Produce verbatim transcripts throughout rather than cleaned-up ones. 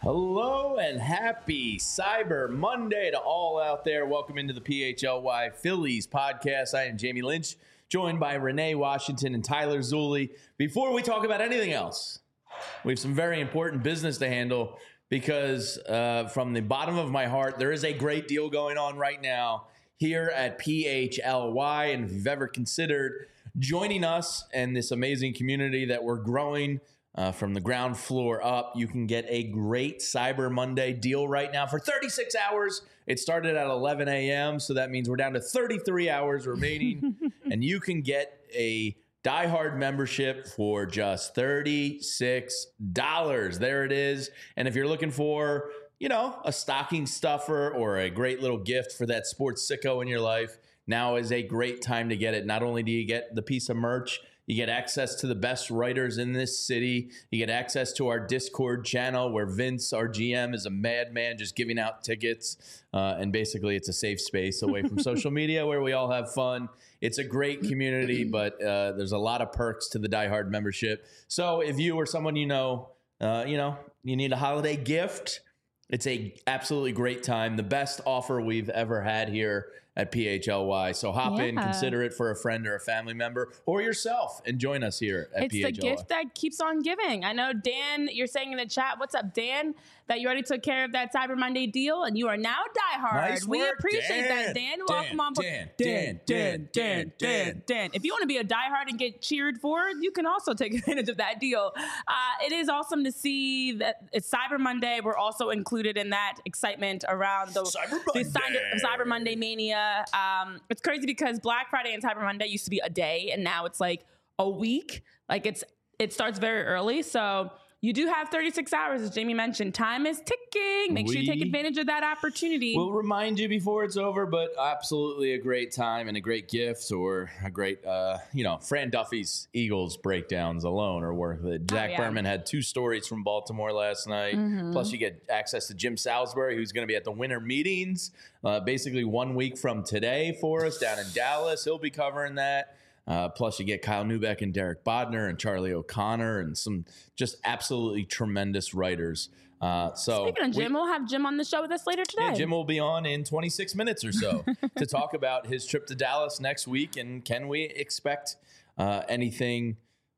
Hello and happy Cyber Monday to all out there. Welcome into the P H L Y Phillies podcast. I am Jamie Lynch, joined by Renee Washington and Tyler Zulli. Before we talk about anything else, we have some very important business to handle because uh, from the bottom of my heart, there is a great deal going on right now here at P H L Y. And if you've ever considered joining us and this amazing community that we're growing Uh, from the ground floor up, you can get a great Cyber Monday deal right now for thirty-six hours. It started at eleven a.m., so that means we're down to thirty-three hours remaining, and you can get a Die Hard membership for just thirty-six dollars. There it is. And if you're looking for, you know, a stocking stuffer or a great little gift for that sports sicko in your life, now is a great time to get it. Not only do you get the piece of merch, you get access to the best writers in this city. You get access to our Discord channel where Vince, our G M, is a madman just giving out tickets. Uh, and basically, it's a safe space away from social media where we all have fun. It's a great community, but uh, there's a lot of perks to the Die Hard membership. So if you or someone you know, uh, you know, you need a holiday gift, it's a absolutely great time. The best offer we've ever had here at P H L Y. So hop yeah. in, consider it for a friend or a family member or yourself, and join us here at it's P H L Y. It's the gift that keeps on giving. I know, Dan, you're saying in the chat, what's up, Dan, that you already took care of that Cyber Monday deal, and you are now Die Hard. Nice we work, appreciate Dan. that, Dan. Dan, Welcome on board. Dan, Dan, Dan, Dan, Dan, Dan. If you want to be a Die Hard and get cheered for, you can also take advantage of that deal. Uh, it is awesome to see that it's Cyber Monday. We're also included in that excitement around the Cyber the Monday, Cyber, Cyber Monday mania. Um, it's crazy because Black Friday and Cyber Monday used to be a day, and now it's like a week. Like it's it starts very early, so you do have thirty-six hours, as Jamie mentioned. Time is ticking. Make we sure you take advantage of that opportunity. We'll remind you before it's over, but absolutely a great time and a great gift, or a great, uh, you know, Fran Duffy's Eagles breakdowns alone are worth it. Jack oh, yeah. Berman had two stories from Baltimore last night. Mm-hmm. Plus, you get access to Jim Salisbury, who's going to be at the winter meetings, uh, basically one week from today for us down in Dallas. He'll be covering that. Uh, plus, you get Kyle Neubeck and Derek Bodner and Charlie O'Connor and some just absolutely tremendous writers. Uh, so Speaking of Jim, we, we'll have Jim on the show with us later today. Yeah, Jim will be on in twenty-six minutes or so to talk about his trip to Dallas next week. And can we expect uh, anything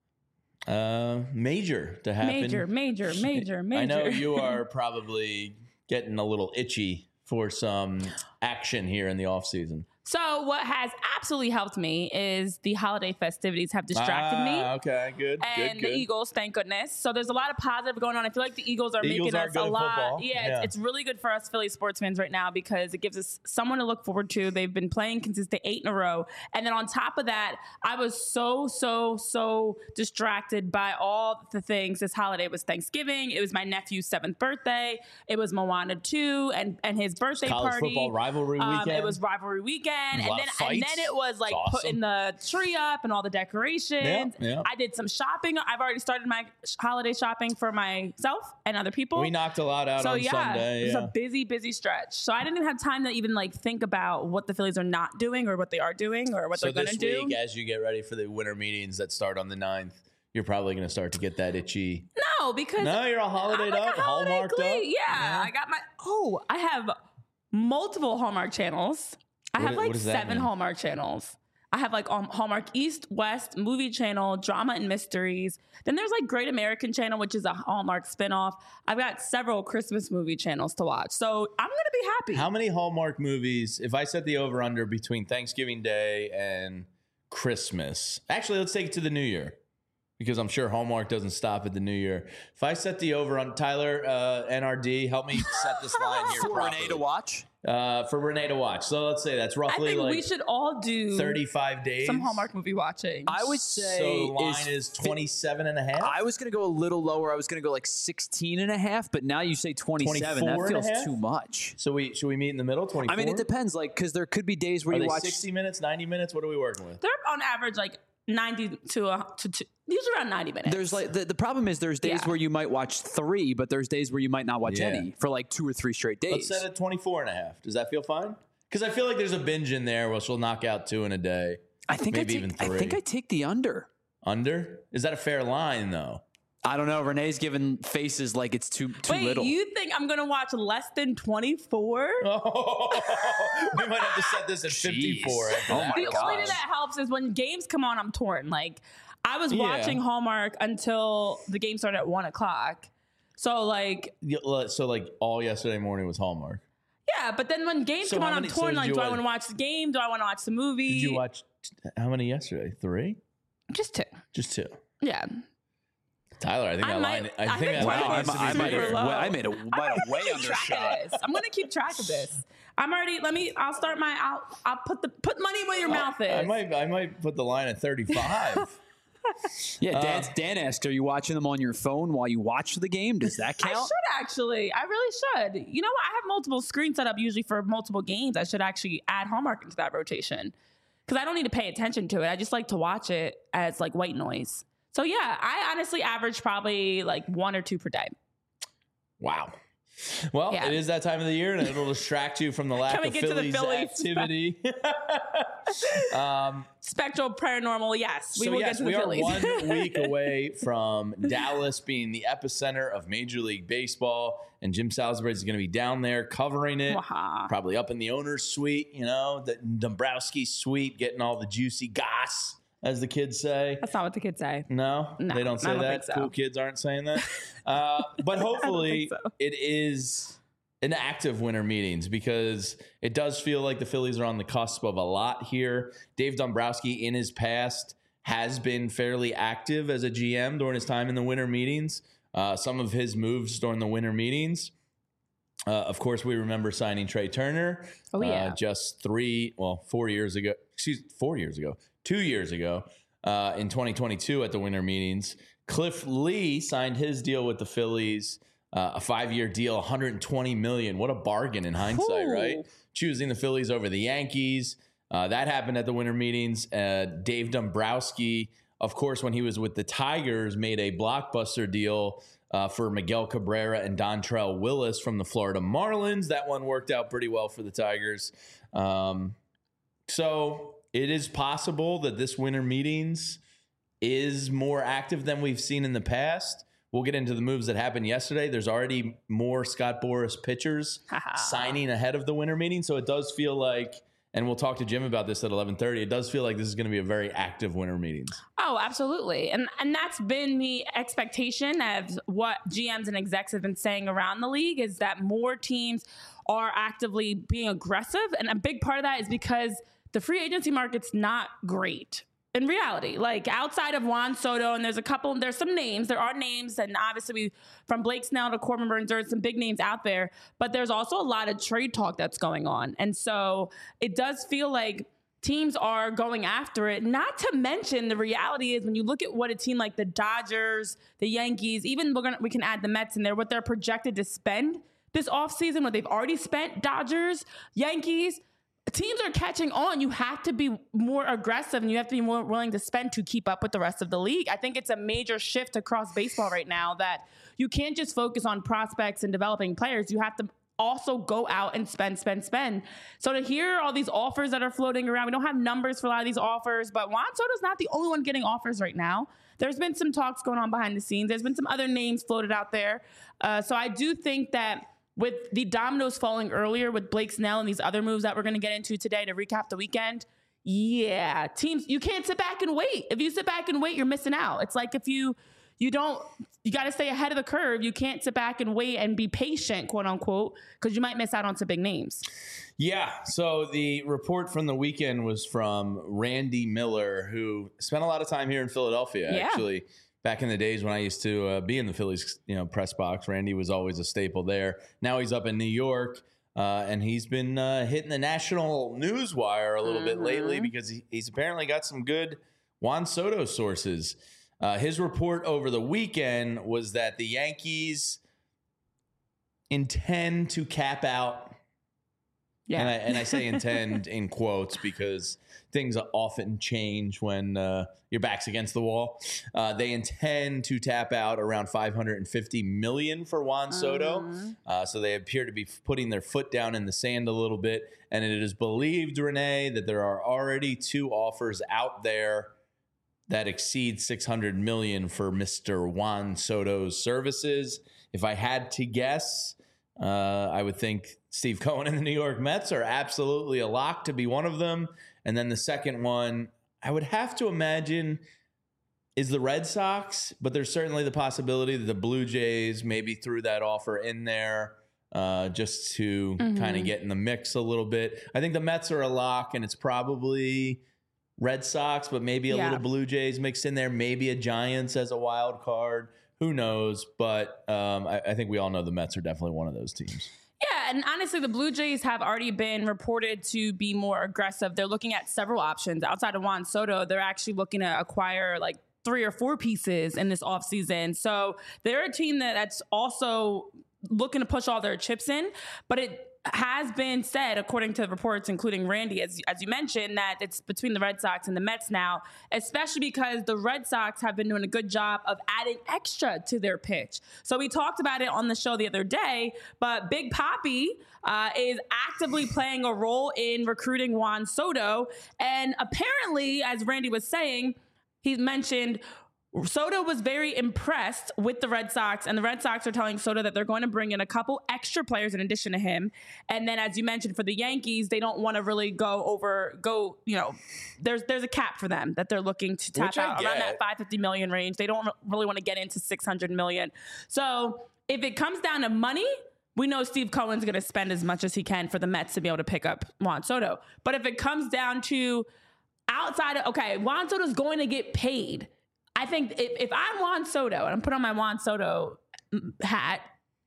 uh, major to happen? Major, major, major, major. I know you are probably getting a little itchy for some action here in the off season. So what has absolutely helped me is the holiday festivities have distracted ah, me. Okay, good, and good, good. the Eagles, thank goodness. So there's a lot of positive going on. I feel like the Eagles are the making Eagles are us good a at lot. football. Yeah, yeah. It's, it's really good for us Philly sports fans right now because it gives us someone to look forward to. They've been playing consistent eight in a row. And then on top of that, I was so, so, so distracted by all the things. This holiday it was Thanksgiving. It was my nephew's seventh birthday. It was Moana two and, and his birthday college party. football rivalry um, weekend. It was rivalry weekend. A And lot then, of fights. and then it was like Awesome. putting the tree up and all the decorations. Yeah, yeah. I did some shopping. I've already started my holiday shopping for myself and other people. We knocked a lot out so on yeah, Sunday. It was Yeah. a busy, busy stretch. So I didn't even have time to even like think about what the Phillies are not doing or what they are doing or what so they're going to this do. week, as you get ready for the winter meetings that start on the ninth, you're probably going to start to get that itchy. No, because No, you're all holidayed I'm like up, a holiday hallmarked queen. up. Yeah, Yeah. I got my. Oh, I have multiple Hallmark channels. I What- have what like does that seven mean? Hallmark channels. I have like um, Hallmark East, West, Movie Channel, Drama and Mysteries. Then there's like Great American Channel, which is a Hallmark spinoff. I've got several Christmas movie channels to watch. So I'm going to be happy. How many Hallmark movies, if I set the over-under between Thanksgiving Day and Christmas, actually, let's take it to the New Year, because I'm sure Hallmark doesn't stop at the New Year. If I set the over on Tyler, uh, N R D, help me set this line here For properly. Renee to watch? Uh, for Renee to watch. So let's say that's I roughly think like we should all do thirty-five days. some Hallmark movie watching. I would say So the line is is twenty-seven and a half. I was going to go a little lower. I was going to go like sixteen and a half, but now you say twenty-seven. twenty-four That and a feels half? too much. So we should we meet in the middle? twenty-four? I mean, it depends, like, because there could be days where Are you they watch. sixty minutes, ninety minutes? What are we working with? They're on average like ninety to, uh, to, to usually around ninety minutes. There's like the, the problem is there's days Yeah. where you might watch three, but there's days where you might not watch Yeah. any for like two or three straight Let's days. set it twenty-four and a half. Does that feel fine? Because I feel like there's a binge in there where she'll knock out two in a day. I think maybe I take, even I three. think I take the under. Under? Is that a fair line, though? I don't know. Renee's giving faces like it's too too Wait, little. you think I'm going to watch less than twenty-four? Oh, we might have to set this at Jeez. fifty-four. After Oh that. my The gosh. only thing that helps is when games come on, I'm torn. Like, I was Yeah. watching Hallmark until the game started at one o'clock. So, like, Yeah, So like all yesterday morning was Hallmark. yeah, but then when games So come how on, I'm many- so torn. did Like, you do I watch- want to watch the game? Do I want to watch the movie? Did you watch how many yesterday? Three? Just two. Just two. Yeah. Tyler, I think I that might- line. I I think think that Tyler line Wow, I, needs to I, be might super have, bigger. low. I made a, might have way Keep track undershot. of this. I'm gonna keep track of this. I'm already. Let me. I'll start my. I'll. I'll put the put money where your mouth is. I might. I might put the line at thirty-five. Yeah, Dan, Dan asked, are you watching them on your phone while you watch the game? Does that I count? should actually. I really should. You know what? I have multiple screens set up usually for multiple games. I should actually add Hallmark into that rotation because I don't need to pay attention to it. I just like to watch it as like white noise. So yeah, I honestly average probably like one or two per day. Wow. Well, Yeah. it is that time of the year, and it'll distract you from the lack Can we of get to the Phillies, Phillies? activity. um, Spectral paranormal, yes, we so will yes, get to the we are Phillies. one week away from Dallas being the epicenter of Major League Baseball, and Jim Salisbury is going to be down there covering it, Wow. probably up in the owner's suite, you know, the Dombrowski suite, getting all the juicy goss, as the kids say. That's not what the kids say. No, No, they don't say I don't that. think so. Cool kids aren't saying that. Uh, but hopefully, think so. it is an active winter meetings because it does feel like the Phillies are on the cusp of a lot here. Dave Dombrowski, in his past, has been fairly active as a G M during his time in the winter meetings. Uh, some of his moves during the winter meetings. Uh, of course, we remember signing Trey Turner. Oh, yeah. Uh, just three, well, four years ago. Excuse four years ago. Two years ago, uh, in twenty twenty-two at the winter meetings. Cliff Lee signed his deal with the Phillies, uh, a five-year deal, one hundred twenty million dollars. What a bargain in hindsight, Ooh. right? Choosing the Phillies over the Yankees. Uh, that happened at the winter meetings. Uh, Dave Dombrowski, of course, when he was with the Tigers, made a blockbuster deal uh, for Miguel Cabrera and Dontrell Willis from the Florida Marlins. That one worked out pretty well for the Tigers. Um, so it is possible that this winter meetings is more active than we've seen in the past. We'll get into the moves that happened yesterday. There's already more Scott Boras pitchers signing ahead of the winter meeting. So it does feel like, and we'll talk to Jim about this at eleven thirty, it does feel like this is going to be a very active winter meetings. Oh, absolutely. And and that's been the expectation of what G Ms and execs have been saying around the league is that more teams are actively being aggressive. And a big part of that is because the free agency market's not great. In reality, like outside of Juan Soto, and there's a couple, there's some names, there are names, and obviously we, from Blake Snell to Corbin Burns, there's some big names out there, but there's also a lot of trade talk that's going on. And so it does feel like teams are going after it, not to mention the reality is when you look at what a team like the Dodgers, the Yankees, even we're gonna, we can add the Mets in there, what they're projected to spend this offseason, what they've already spent, Dodgers, Yankees, teams are catching on. You have to be more aggressive and you have to be more willing to spend to keep up with the rest of the league. I think it's a major shift across baseball right now that you can't just focus on prospects and developing players. You have to also go out and spend, spend, spend. So to hear all these offers that are floating around, we don't have numbers for a lot of these offers, but Juan Soto's not the only one getting offers right now. There's been some talks going on behind the scenes. There's been some other names floated out there. Uh, so I do think that with the dominoes falling earlier with Blake Snell and these other moves that we're going to get into today to recap the weekend, yeah, teams, you can't sit back and wait. If you sit back and wait, you're missing out. It's like if you you don't, you got to stay ahead of the curve. You can't sit back and wait and be patient, quote unquote, because you might miss out on some big names. Yeah, so the report from the weekend was from Randy Miller, who spent a lot of time here in Philadelphia, Yeah. actually. Back in the days when I used to uh, be in the Phillies, you know, press box, Randy was always a staple there. Now he's up in New York, uh, and he's been uh, hitting the national news wire a little Mm-hmm. bit lately because he, he's apparently got some good Juan Soto sources. Uh, his report over the weekend was that the Yankees intend to cap out. Yeah. And I, and I say intend in quotes because things often change when uh, your back's against the wall. Uh, they intend to tap out around five hundred fifty million dollars for Juan Soto. Mm-hmm. Uh, so they appear to be putting their foot down in the sand a little bit. And it is believed, Renee, that there are already two offers out there that exceeds six hundred million dollars for Mister Juan Soto's services. If I had to guess, uh, I would think Steve Cohen and the New York Mets are absolutely a lock to be one of them. And then the second one, I would have to imagine, is the Red Sox, but there's certainly the possibility that the Blue Jays maybe threw that offer in there uh, just to mm-hmm. kind of get in the mix a little bit. I think the Mets are a lock, and it's probably Red Sox, but maybe a yeah. little Blue Jays mixed in there, maybe a Giants as a wild card. Who knows? But um, I, I think we all know the Mets are definitely one of those teams. Yeah, and honestly, the Blue Jays have already been reported to be more aggressive. They're looking at several options. Outside of Juan Soto, they're actually looking to acquire like three or four pieces in this offseason. So they're a team that, that's also looking to push all their chips in. But it has been said, according to reports, including Randy, as, as you mentioned, that it's between the Red Sox and the Mets now, especially because the Red Sox have been doing a good job of adding extra to their pitch. So we talked about it on the show the other day, but Big Papi uh, is actively playing a role in recruiting Juan Soto. And apparently, as Randy was saying, he mentioned Soto was very impressed with the Red Sox, and the Red Sox are telling Soto that they're going to bring in a couple extra players in addition to him. And then, as you mentioned, for the Yankees, they don't want to really go over, go, you know, there's there's a cap for them that they're looking to tap out around that five hundred fifty million range. They don't really want to get into six hundred million. So if it comes down to money, we know Steve Cohen's going to spend as much as he can for the Mets to be able to pick up Juan Soto. But if it comes down to outside of, okay, Juan Soto's going to get paid. I think if, if I'm Juan Soto and I'm putting on my Juan Soto hat,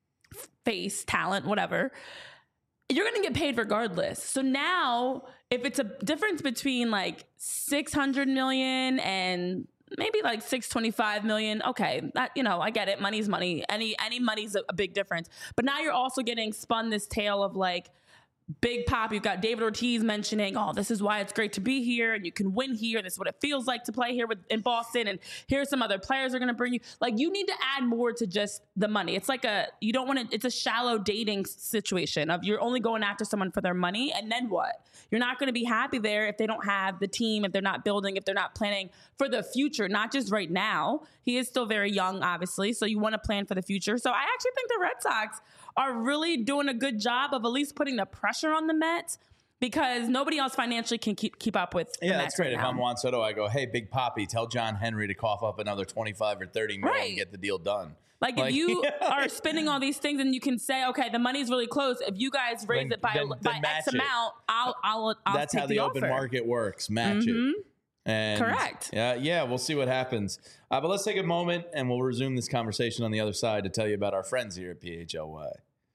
face, talent, whatever, you're going to get paid regardless. So now if it's a difference between like six hundred million and maybe like six twenty-five million, okay, that, you know, I get it. Money's money. Any, any money's a, a big difference. But now you're also getting spun this tale of like, Big Pop, you've got David Ortiz mentioning, oh, this is why it's great to be here and you can win here. This is what it feels like to play here with, in Boston. And here's some other players are going to bring you. Like, you need to add more to just the money. It's like a, you don't want to, it's a shallow dating situation of you're only going after someone for their money. And then what? You're not going to be happy there if they don't have the team, if they're not building, if they're not planning for the future, not just right now. He is still very young, obviously. So you want to plan for the future. So I actually think the Red Sox are really doing a good job of at least putting the pressure on the Mets because nobody else financially can keep keep up with. Yeah, the that's Mets great. Right if now. I'm Juan Soto, I go, hey, Big Papi, tell John Henry to cough up another twenty-five or thirty million right. and get the deal done. Like, like if you are spending all these things and you can say, okay, the money's really close. If you guys raise then, it by, then, by then X it. amount, I'll I'll I'll That's take how the, the open offer. market works. Match mm-hmm. it. And Correct. Yeah, yeah, we'll see what happens. Uh, but let's take a moment and we'll resume this conversation on the other side to tell you about our friends here at P H L Y.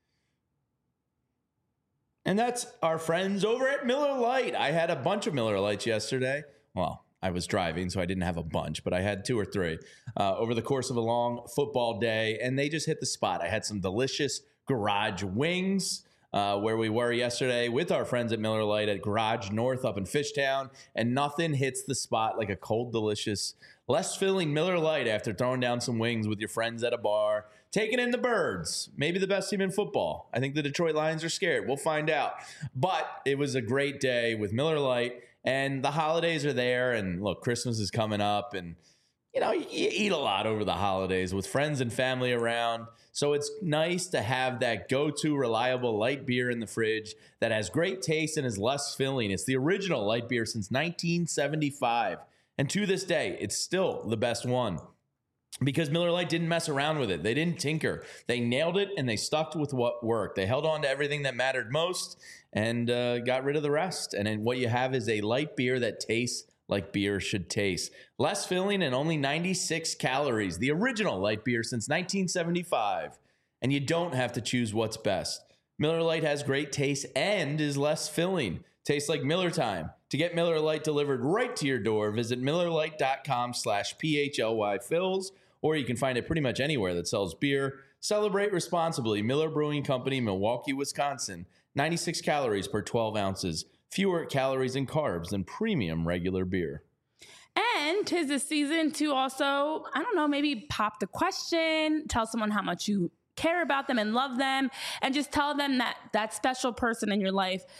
And that's our friends over at Miller Lite. I had a bunch of Miller Lights yesterday. Well, I was driving, so I didn't have a bunch, but I had two or three uh, over the course of a long football day, and they just hit the spot. I had some delicious garage wings uh, where we were yesterday with our friends at Miller Lite at Garage North up in Fishtown, and nothing hits the spot like a cold, delicious, less filling Miller Lite after throwing down some wings with your friends at a bar. Taking in the Birds, maybe the best team in football. I think the Detroit Lions are scared. We'll find out. But it was a great day with Miller Lite, and the holidays are there. And look, Christmas is coming up, and you know you eat a lot over the holidays with friends and family around. So it's nice to have that go-to reliable light beer in the fridge that has great taste and is less filling. It's the original light beer since nineteen seventy-five, and to this day, it's still the best one. Because Miller Lite didn't mess around with it. They didn't tinker. They nailed it, and they stuck with what worked. They held on to everything that mattered most and uh, got rid of the rest. And then what you have is a light beer that tastes like beer should taste. Less filling and only ninety-six calories. The original light beer since nineteen seventy-five. And you don't have to choose what's best. Miller Lite has great taste and is less filling. Tastes like Miller time. To get Miller Lite delivered right to your door, visit millerlite.com slash PHLY fills. Or you can find it pretty much anywhere that sells beer. Celebrate responsibly. Miller Brewing Company, Milwaukee, Wisconsin. ninety-six calories per twelve ounces. Fewer calories and carbs than premium regular beer. And 'tis the season to also, I don't know, maybe pop the question, tell someone how much you care about them and love them, and just tell them that that special person in your life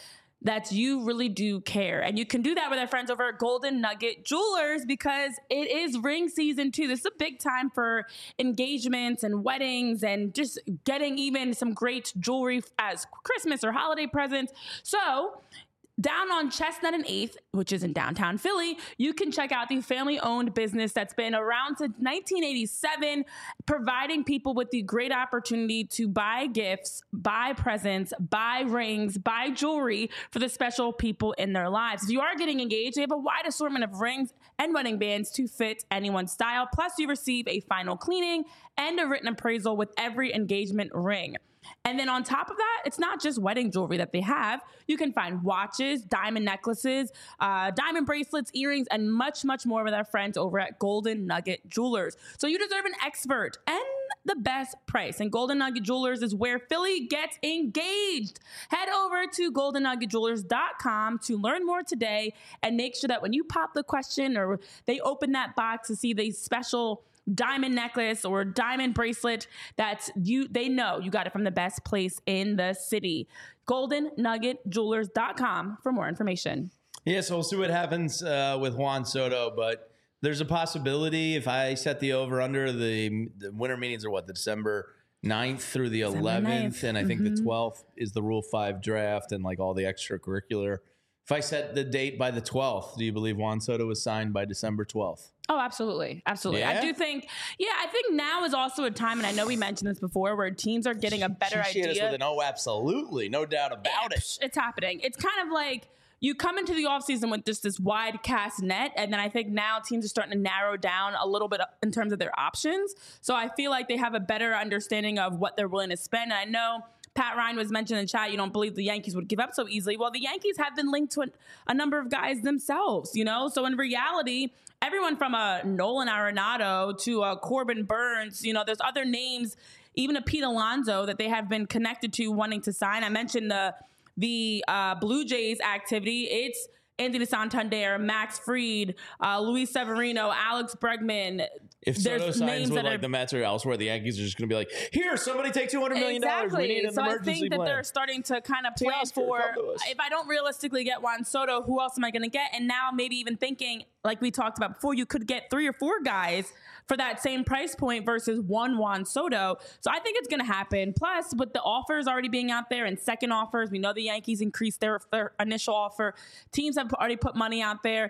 that you really do care. And you can do that with our friends over at Golden Nugget Jewelers because it is ring season too. This is a big time for engagements and weddings and just getting even some great jewelry as Christmas or holiday presents. So down on Chestnut and eighth, which is in downtown Philly, you can check out the family-owned business that's been around since nineteen eighty-seven, providing people with the great opportunity to buy gifts, buy presents, buy rings, buy jewelry for the special people in their lives. If you are getting engaged, they have a wide assortment of rings and wedding bands to fit anyone's style. Plus, you receive a final cleaning and a written appraisal with every engagement ring. And then on top of that, it's not just wedding jewelry that they have. You can find watches, diamond necklaces, uh, diamond bracelets, earrings, and much, much more with our friends over at Golden Nugget Jewelers. So you deserve an expert and the best price. And Golden Nugget Jewelers is where Philly gets engaged. Head over to golden nugget jewelers dot com to learn more today and make sure that when you pop the question or they open that box to see the special diamond necklace or diamond bracelet, that's you they know you got it from the best place in the city. golden nugget jewelers dot com for more information. Yeah, so we'll see what happens uh, with Juan Soto, but there's a possibility if I set the over under, the, the winter meetings are what, the December ninth through the eleventh, ninth. And I think mm-hmm. the twelfth is the Rule five draft and like all the extracurricular. If I set the date by the twelfth, do you believe Juan Soto was signed by December twelfth? Oh, absolutely. Absolutely. Yeah? I do think, yeah, I think now is also a time, and I know we mentioned this before, where teams are getting a better she, she idea. Hit us with an oh, absolutely. No doubt about yeah, it. It's happening. It's kind of like you come into the offseason with just this wide cast net, and then I think now teams are starting to narrow down a little bit in terms of their options. So I feel like they have a better understanding of what they're willing to spend. And I know Pat Ryan was mentioned in chat, you don't believe the Yankees would give up so easily. Well, the Yankees have been linked to a, a number of guys themselves, you know? So in reality, everyone from a Nolan Arenado to a Corbin Burns, you know, there's other names, even a Pete Alonso that they have been connected to wanting to sign. I mentioned the the uh, Blue Jays activity. It's Anthony Santander, Max Fried, uh, Luis Severino, Alex Bregman. If Soto signs with like are, the Mets or elsewhere, the Yankees are just going to be like, here, somebody take two hundred million dollars. Exactly. We need an so emergency I think that plan. they're starting to kind of plan Oscar, for, if I don't realistically get Juan Soto, who else am I going to get? And now maybe even thinking, like we talked about before, you could get three or four guys for that same price point versus one Juan Soto. So I think it's going to happen. Plus, with the offers already being out there and second offers, we know the Yankees increased their, their initial offer. Teams have already put money out there.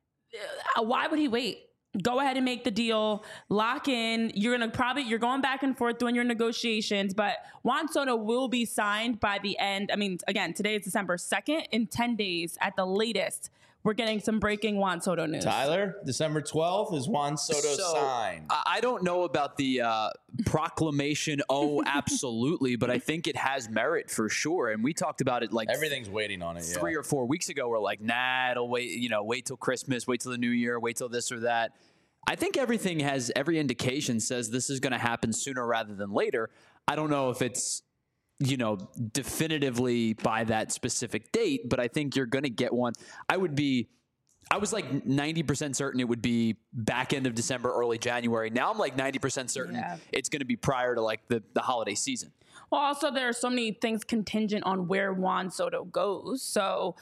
Uh, why would he wait? Go ahead and make the deal, lock in. You're going to probably, you're going back and forth doing your negotiations, but Juan Soto will be signed by the end. I mean, again, today is December second. In ten days at the latest, we're getting some breaking Juan Soto news. Tyler, December twelfth is Juan Soto so, signed. I don't know about the uh, proclamation, oh, absolutely, but I think it has merit for sure. And we talked about it like everything's waiting on it. Three yeah. or four weeks ago, we're like, nah, it'll wait, you know, wait till Christmas, wait till the new year, wait till this or that. I think everything has, every indication says this is going to happen sooner rather than later. I don't know if it's, you know, definitively by that specific date, but I think you're going to get one. I would be, I was like ninety percent certain it would be back end of December, early January. Now I'm like ninety percent certain yeah. it's going to be prior to like the, the holiday season. Well, also there are so many things contingent on where Juan Soto goes. So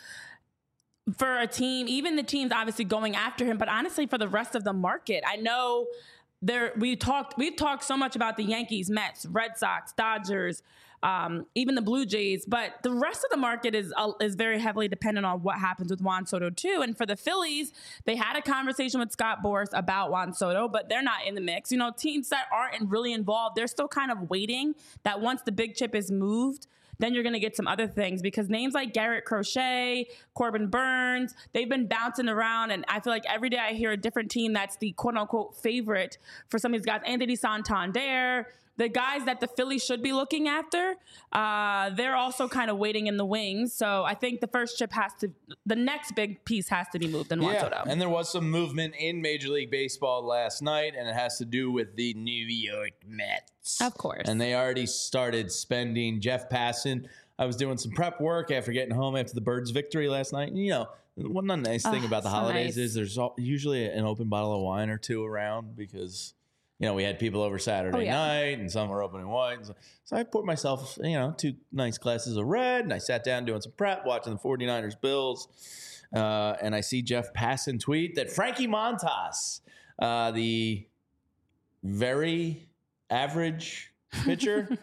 for a team, even the teams obviously going after him, but honestly for the rest of the market, I know there we talked we've talked so much about the Yankees, Mets, Red Sox, Dodgers, um, even the Blue Jays, but the rest of the market is uh, is very heavily dependent on what happens with Juan Soto too. And for the Phillies, they had a conversation with Scott Boras about Juan Soto, but they're not in the mix. You know, teams that aren't really involved, they're still kind of waiting that once the big chip is moved, then you're going to get some other things because names like Garrett Crochet, Corbin Burns, they've been bouncing around. And I feel like every day I hear a different team that's the quote unquote favorite for some of these guys. Anthony Santander, the guys that the Phillies should be looking after, uh, they're also kind of waiting in the wings. So I think the first chip has to, the next big piece has to be moved in Juan yeah, Soto. And there was some movement in Major League Baseball last night, and it has to do with the New York Mets. Of course. And they already started spending. Jeff Passan, I was doing some prep work after getting home after the Birds' victory last night. And, you know, one nice thing oh, about the so holidays nice. is there's usually an open bottle of wine or two around because you know, we had people over Saturday Oh, yeah. night and some were opening wine. So, so I poured myself, you know, two nice glasses of red and I sat down doing some prep, watching the 49ers Bills. Uh, and I see Jeff Passan tweet that Frankie Montas, uh, the very average pitcher,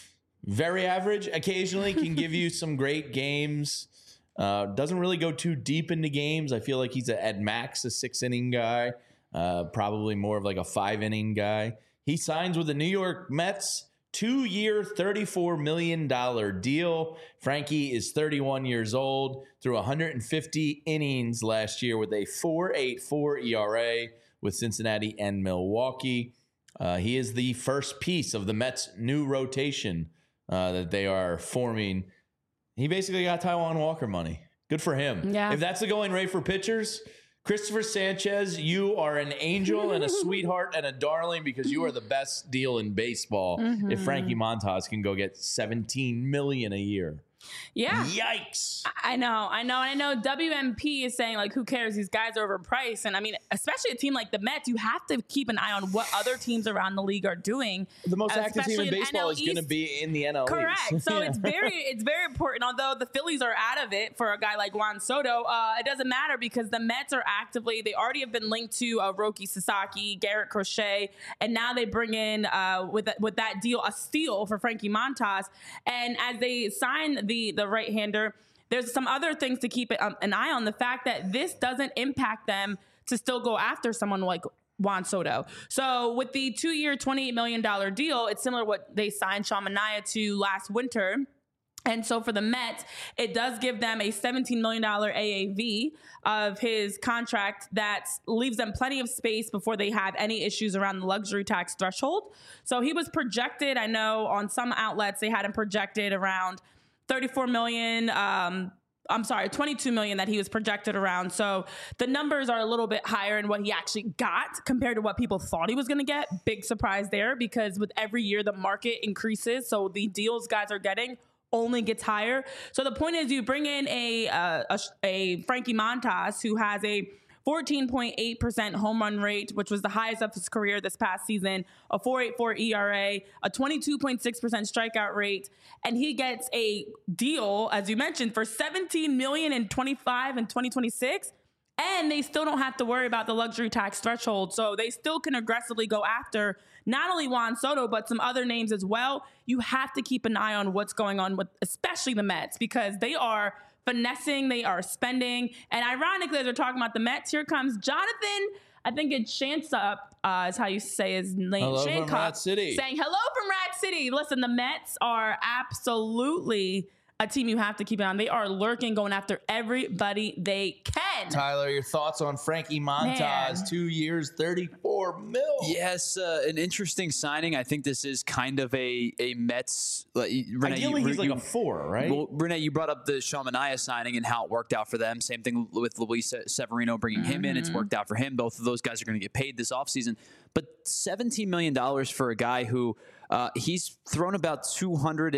very average, occasionally can give you some great games. Uh, doesn't really go too deep into games. I feel like he's a, at max a six inning guy, uh, probably more of like a five inning guy. He signs with the New York Mets. Two-year, thirty-four million dollars deal. Frankie is thirty-one years old, threw one hundred fifty innings last year with a four point eight four E R A with Cincinnati and Milwaukee. Uh, he is the first piece of the Mets' new rotation uh, that they are forming. He basically got Taijuan Walker money. Good for him. Yeah. If that's the going rate for pitchers, Christopher Sanchez, you are an angel and a sweetheart and a darling because you are the best deal in baseball. Mm-hmm. If Frankie Montas can go get seventeen million dollars a year. Yeah. Yikes. I know, I know, I know. W M P is saying, like, who cares? These guys are overpriced. And I mean, especially a team like the Mets, you have to keep an eye on what other teams around the league are doing. The most active team in baseball is going to East. be in the N L East. Correct. So yeah. it's very, it's very important. Although the Phillies are out of it for a guy like Juan Soto, uh, it doesn't matter because the Mets are actively, they already have been linked to uh, Roki Sasaki, Garrett Crochet, and now they bring in, uh, with, with that deal, a steal for Frankie Montas. And as they sign the, the right-hander, there's some other things to keep um, an eye on. The fact that this doesn't impact them to still go after someone like Juan Soto. So with the two-year, twenty-eight million dollars deal, it's similar to what they signed Sean Manaea to last winter. And so for the Mets, it does give them a seventeen million dollars A A V of his contract that leaves them plenty of space before they have any issues around the luxury tax threshold. So he was projected, I know on some outlets, they had him projected around thirty-four million dollars, um, I'm sorry, twenty-two million dollars that he was projected around. So the numbers are a little bit higher in what he actually got compared to what people thought he was going to get. Big surprise there because with every year the market increases. So the deals guys are getting only gets higher. So the point is you bring in a, uh, a, a Frankie Montas who has a fourteen point eight percent home run rate, which was the highest of his career this past season, a four point eight four E R A, a twenty-two point six percent strikeout rate, and he gets a deal, as you mentioned, for seventeen million dollars in twenty-five and twenty twenty-six, and they still don't have to worry about the luxury tax threshold, so they still can aggressively go after not only Juan Soto, but some other names as well. You have to keep an eye on what's going on with especially the Mets because they are finessing, they are spending. And ironically, as we're talking about the Mets, here comes Jonathan, I think it's Shancup, uh, is how you say his name. Hello Shancup, from Rat City. Saying hello from Rat City. Listen, the Mets are absolutely a team you have to keep an eye on. They are lurking, going after everybody they can. Tyler, your thoughts on Frankie Montas, Man. two years, thirty-four mil. Yes, uh, an interesting signing. I think this is kind of a a Mets. Uh, Renee, Ideally, you, he's like you, a four, right? Well, Renee, you brought up the Sean Manaea signing and how it worked out for them. Same thing with Luis Severino bringing mm-hmm. him in. It's worked out for him. Both of those guys are going to get paid this offseason. But seventeen million dollars for a guy who uh, he's thrown about two hundred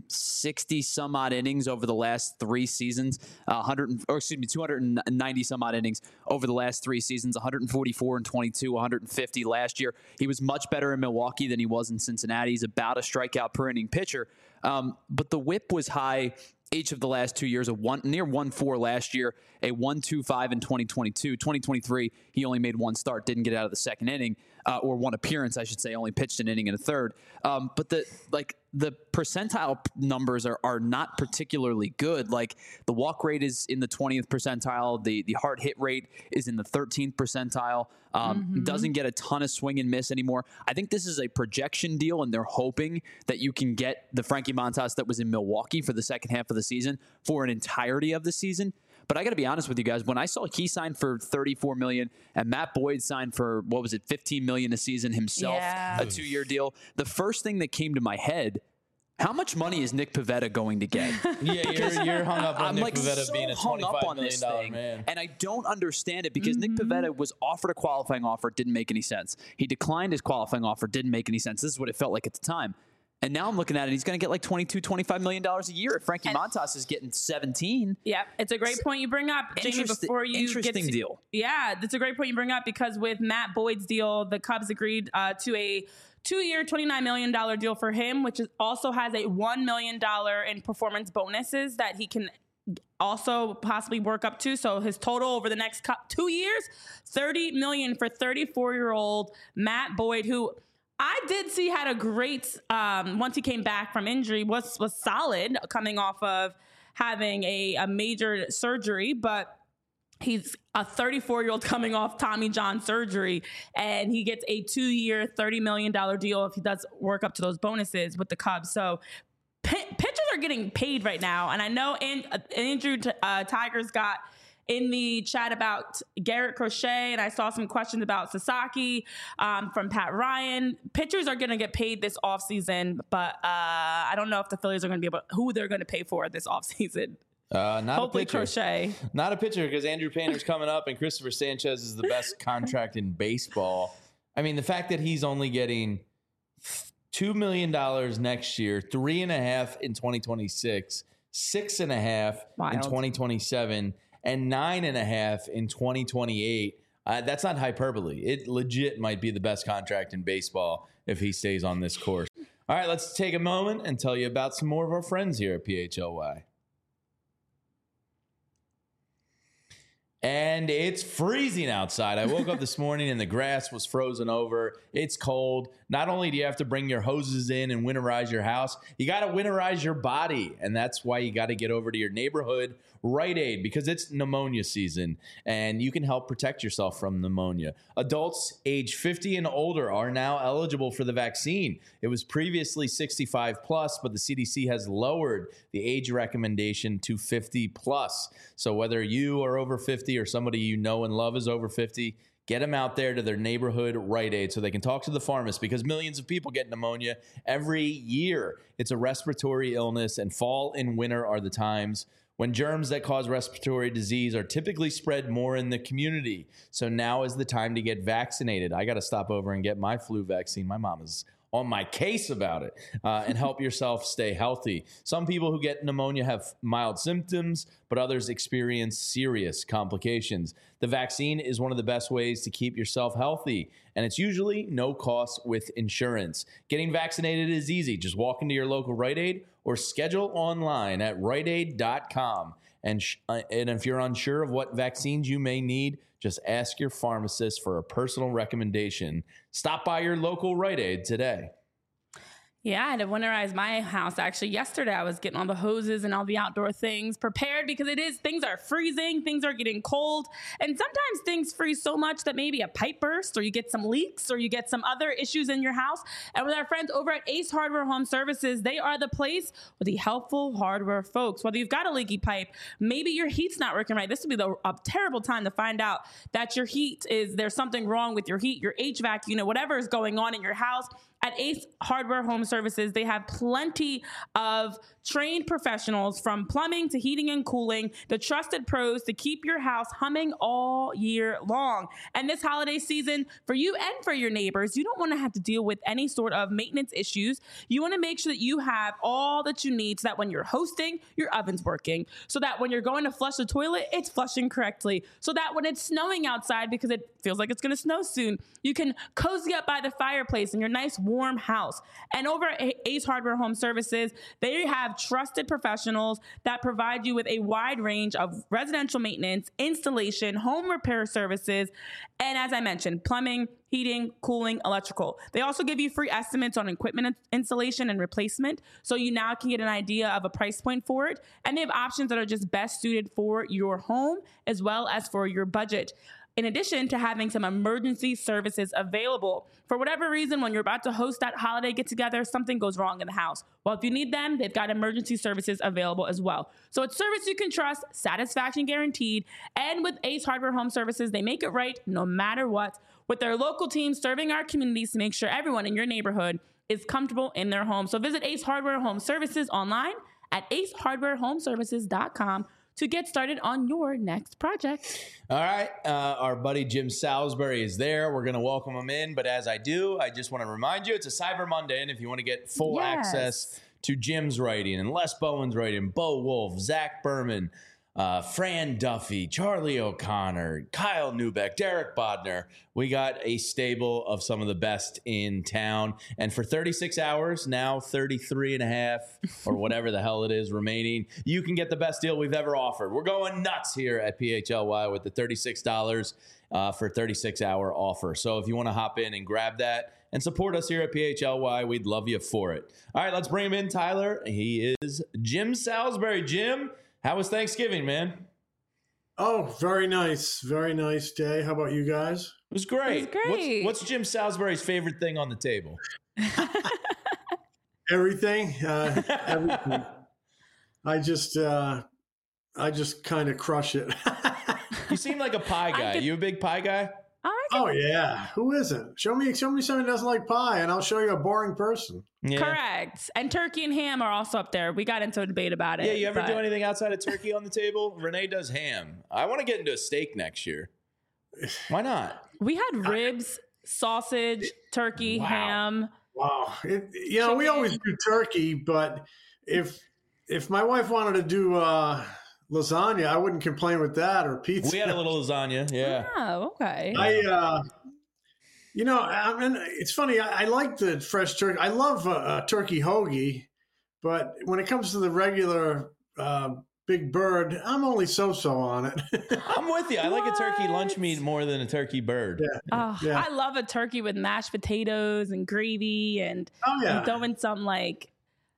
sixty some odd innings over the last three seasons, uh, one hundred or excuse me, two hundred ninety some odd innings over the last three seasons, one hundred forty-four and twenty-two, one hundred fifty last year. He was much better in Milwaukee than he was in Cincinnati. He's about a strikeout per inning pitcher, um, but the whip was high each of the last two years, a one near one four last year, a one two five in twenty twenty-two. twenty twenty-three, he only made one start, didn't get out of the second inning, uh, or one appearance, I should say, only pitched an inning and a third. Um, but the like the percentile numbers are are not particularly good. Like the walk rate is in the twentieth percentile, the the hard hit rate is in the thirteenth percentile. Um, mm-hmm. Doesn't get a ton of swing and miss anymore. I think this is a projection deal, and they're hoping that you can get the Frankie Montas that was in Milwaukee for the second half of the season for an entirety of the season. But I got to be honest with you guys. When I saw he signed for thirty-four million dollars and Matt Boyd signed for, what was it, fifteen million dollars a season himself, yeah. a two-year deal, the first thing that came to my head, how much money is Nick Pivetta going to get? Yeah, you're, you're hung up on I'm Nick like Pivetta so being a hung up twenty-five on million this dollar thing, man. and I don't understand it because Mm-hmm. Nick Pivetta was offered a qualifying offer, didn't make any sense. He declined his qualifying offer, didn't make any sense. This is what it felt like at the time. And now I'm looking at it, he's going to get like twenty-two, twenty-five million dollars a year. If Frankie And- Montas is getting seventeen. Yeah, it's a great point you bring up, Jamie. Interest- Before you interesting get to, deal. Yeah, that's a great point you bring up because with Matt Boyd's deal, the Cubs agreed uh, to a two-year, twenty-nine million dollars deal for him, which is, also has a one million dollars in performance bonuses that he can also possibly work up to. So his total over the next cu- two years, thirty million dollars for thirty-four-year-old Matt Boyd, who I did see had a great, um, once he came back from injury, was was solid coming off of having a, a major surgery, but he's a thirty-four-year-old coming off Tommy John surgery, and he gets a two-year, thirty million dollars deal if he does work up to those bonuses with the Cubs. So p- pitchers are getting paid right now, and I know and, uh, Andrew uh, Tigers got in the chat about Garrett Crochet, and I saw some questions about Sasaki um, from Pat Ryan. Pitchers are going to get paid this offseason, but uh, I don't know if the Phillies are going to be able who they're going to pay for this offseason. Uh, not Hopefully a pitcher. Crochet. Not a pitcher because Andrew Painter's coming up and Christopher Sanchez is the best contract in baseball. I mean, the fact that he's only getting two million dollars next year, three and a half in twenty twenty-six, six and a half Wild. in twenty twenty-seven, and nine and a half in twenty twenty-eight. Uh, that's not hyperbole. It legit might be the best contract in baseball if he stays on this course. All right, let's take a moment and tell you about some more of our friends here at P H L Y. And it's freezing outside. I woke up this morning and the grass was frozen over. It's cold. Not only do you have to bring your hoses in and winterize your house, you got to winterize your body. And that's why you got to get over to your neighborhood Rite Aid because it's pneumonia season and you can help protect yourself from pneumonia. Adults age fifty and older are now eligible for the vaccine. It was previously sixty-five plus, but the C D C has lowered the age recommendation to fifty plus. So whether you are over fifty or somebody you know and love is over fifty, get them out there to their neighborhood Rite Aid so they can talk to the pharmacist because millions of people get pneumonia every year. It's a respiratory illness, and fall and winter are the times when germs that cause respiratory disease are typically spread more in the community. So now is the time to get vaccinated. I got to stop over and get my flu vaccine. My mom is on my case about it, uh, and help yourself stay healthy. Some people who get pneumonia have mild symptoms, but others experience serious complications. The vaccine is one of the best ways to keep yourself healthy, and it's usually no cost with insurance. Getting vaccinated is easy. Just walk into your local Rite Aid or schedule online at rite aid dot com. And, sh- uh, and if you're unsure of what vaccines you may need, just ask your pharmacist for a personal recommendation. Stop by your local Rite Aid today. Yeah, I had to winterize my house. Actually, yesterday I was getting all the hoses and all the outdoor things prepared because it is, things are freezing, things are getting cold. And sometimes things freeze so much that maybe a pipe bursts or you get some leaks or you get some other issues in your house. And with our friends over at Ace Hardware Home Services, they are the place with the helpful hardware folks. Whether you've got a leaky pipe, maybe your heat's not working right. This would be the, a terrible time to find out that your heat is, there's something wrong with your heat, your H V A C unit, whatever is going on in your house. At Ace Hardware Home Services, they have plenty of trained professionals from plumbing to heating and cooling, the trusted pros to keep your house humming all year long. And this holiday season, for you and for your neighbors, you don't want to have to deal with any sort of maintenance issues. You want to make sure that you have all that you need so that when you're hosting, your oven's working. So that when you're going to flush the toilet, it's flushing correctly. So that when it's snowing outside, because it feels like it's going to snow soon, you can cozy up by the fireplace in your nice warm house. And over at Ace Hardware Home Services, they have trusted professionals that provide you with a wide range of residential maintenance, installation, home repair services, and as I mentioned, plumbing, heating, cooling, electrical. They also give you free estimates on equipment installation and replacement, so you now can get an idea of a price point for it. And they have options that are just best suited for your home as well as for your budget. In addition to having some emergency services available. For whatever reason, when you're about to host that holiday get-together, something goes wrong in the house. Well, if you need them, they've got emergency services available as well. So it's service you can trust, satisfaction guaranteed, and with Ace Hardware Home Services, they make it right no matter what. With their local team serving our communities to make sure everyone in your neighborhood is comfortable in their home. So visit Ace Hardware Home Services online at ace hardware home services dot com to get started on your next project. All right. Uh, our buddy Jim Salisbury is there. We're going to welcome him in. But as I do, I just want to remind you, it's a Cyber Monday. And if you want to get full Yes. access to Jim's writing and Les Bowen's writing, Bo Wolf, Zach Berman, uh, Fran Duffy, Charlie O'Connor, Kyle Newbeck, Derek Bodner, we got a stable of some of the best in town. And for thirty-six hours, now thirty-three and a half or whatever the hell it is remaining, you can get the best deal we've ever offered. We're going nuts here at P H L Y with the thirty-six dollars uh, for thirty-six hour offer. So if you want to hop in and grab that and support us here at P H L Y, we'd love you for it. All right, let's bring him in, Tyler. He is Jim Salisbury. Jim, how was Thanksgiving, man? Oh, very nice. Very nice day. How about you guys? It was great. It was great. What's, what's Jim Salisbury's favorite thing on the table? Everything. Uh, everything. I just, uh, I just kind of crush it. You seem like a pie guy. could- You a big pie guy? I can Oh yeah. Who isn't? Show me, show me someone who doesn't like pie, and I'll show you a boring person. Yeah. Correct. And turkey and ham are also up there. We got into a debate about it. Yeah, you ever but- do anything outside of turkey on the table? Renee does ham. I want to get into a steak next year. Why not? We had ribs, sausage, turkey, Wow. ham. Wow. It, you know, we Chicken. always do turkey, but if if my wife wanted to do uh, lasagna, I wouldn't complain with that, or pizza. We had a little lasagna. Yeah. Oh, okay. I, uh, you know, I mean, it's funny. I, I like the fresh turkey. I love a, a turkey hoagie, but when it comes to the regular uh, big bird, I'm only so-so on it. I'm with you. I like a turkey lunch What? meat more than a turkey bird. Yeah. Oh, Yeah. I love a turkey with mashed potatoes and gravy and, Oh yeah. and throw in some like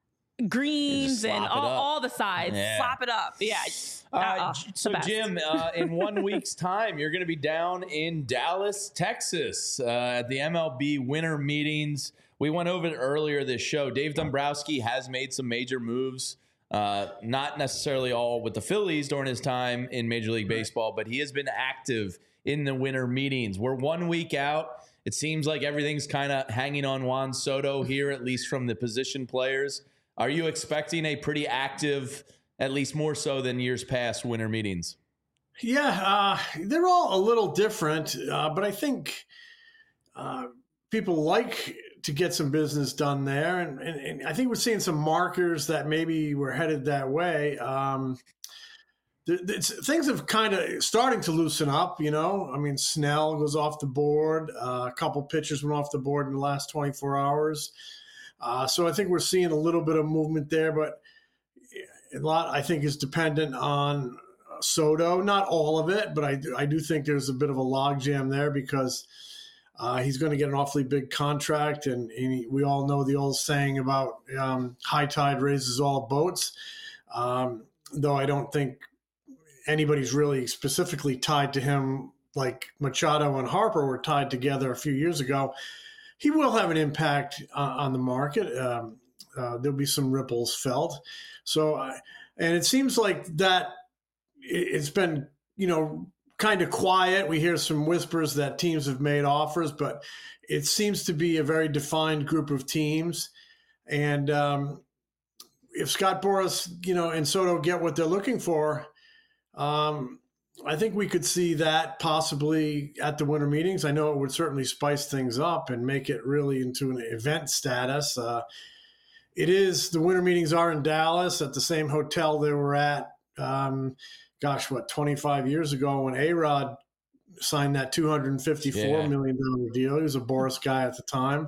greens slap and it all, up. all the sides. Yeah. Slap it up. Yeah. Uh, Uh-uh. J- The so, best. Jim, uh, in one week's time, you're going to be down in Dallas, Texas, uh, at the M L B winter meetings. We went over it earlier this show. Dave Dombrowski has made some major moves, uh, not necessarily all with the Phillies during his time in Major League Baseball, but he has been active in the winter meetings. We're one week out. It seems like everything's kind of hanging on Juan Soto here, at least from the position players. Are you expecting a pretty active, at least more so than years past, winter meetings? Yeah, uh, they're all a little different, uh, but I think uh, people like to get some business done there, and, and, and I think we're seeing some markers that maybe we're headed that way. Um, th- th- things have kind of starting to loosen up, you know. I mean, Snell goes off the board. Uh, a couple pitchers went off the board in the last twenty-four hours. Uh, so I think we're seeing a little bit of movement there, but a lot, I think, is dependent on Soto. Not all of it, but I do, I do think there's a bit of a logjam there because uh, he's going to get an awfully big contract, and, and he, we all know the old saying about um, high tide raises all boats. Um, though I don't think anybody's really specifically tied to him like Machado and Harper were tied together a few years ago. He will have an impact uh, on the market. Um, uh, there'll be some ripples felt. So, uh, and it seems like that it's been, you know, kind of quiet. We hear some whispers that teams have made offers, but it seems to be a very defined group of teams. And um, if Scott Boras, you know, and Soto get what they're looking for, um, I think we could see that possibly at the winter meetings. I know it would certainly spice things up and make it really into an event status. Uh, it is, the winter meetings are in Dallas at the same hotel they were at, um, gosh, what, twenty-five years ago when A-Rod signed that two hundred fifty-four Yeah. million dollars deal. He was a Boras guy at the time.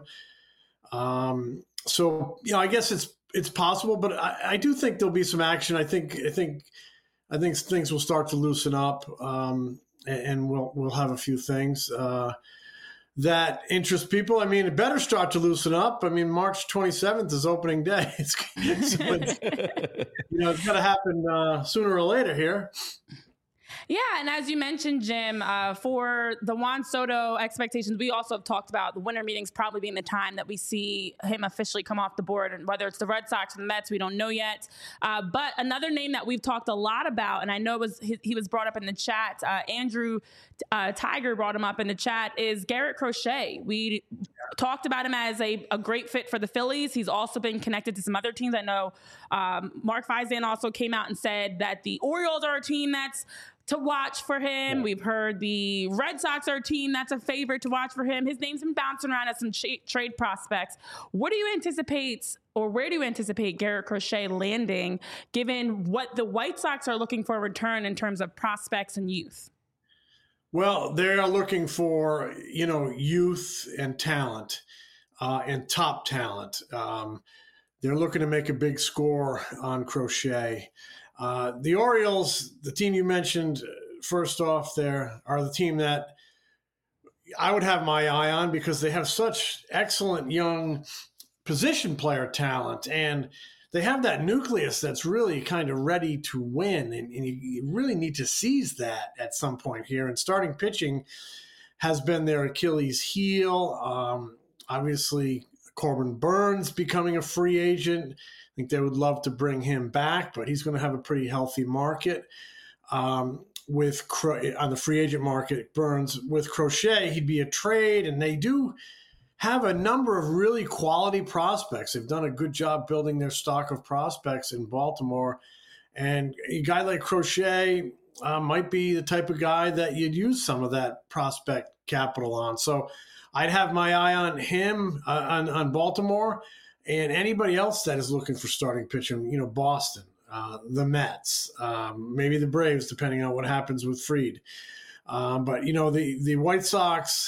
Um, so, you know, I guess it's it's possible, but I, I do think there'll be some action. I think I think I think things will start to loosen up, um, and, and we'll we'll have a few things uh, that interest people. I mean, it better start to loosen up. I mean, March twenty-seventh is opening day. It's, so it's you know, it's got to happen uh, sooner or later here. Yeah, and as you mentioned, Jim, uh, for the Juan Soto expectations, we also have talked about the winter meetings probably being the time that we see him officially come off the board, and whether it's the Red Sox or the Mets, we don't know yet. Uh, but another name that we've talked a lot about, and I know was he, he was brought up in the chat, uh, Andrew uh, Tiger brought him up in the chat, is Garrett Crochet. We talked about him as a, a great fit for the Phillies. He's also been connected to some other teams. I know um, Mark Feisan also came out and said that the Orioles are a team that's to watch for him. We've heard the Red Sox are a team that's a favorite to watch for him. His name's been bouncing around as some ch- trade prospects. What do you anticipate, or where do you anticipate Garrett Crochet landing, given what the White Sox are looking for a return in terms of prospects and youth? Well, they're looking for, you know, youth and talent uh, and top talent. Um, they're looking to make a big score on Crochet. Uh, the Orioles, the team you mentioned, first off there, are the team that I would have my eye on because they have such excellent young position player talent, and they have that nucleus that's really kind of ready to win, and, and you, you really need to seize that at some point here. And starting pitching has been their Achilles heel. Um, obviously, Corbin Burns becoming a free agent. I think they would love to bring him back, but he's going to have a pretty healthy market. Um, with Cro- on the free agent market, Burns. With Crochet, he'd be a trade, and they do have a number of really quality prospects. They've done a good job building their stock of prospects in Baltimore. And a guy like Crochet uh, might be the type of guy that you'd use some of that prospect capital on. So I'd have my eye on him, uh, on, on Baltimore, and anybody else that is looking for starting pitching, you know, Boston, uh, the Mets, um, maybe the Braves, depending on what happens with Fried. Um, but, you know, the, the White Sox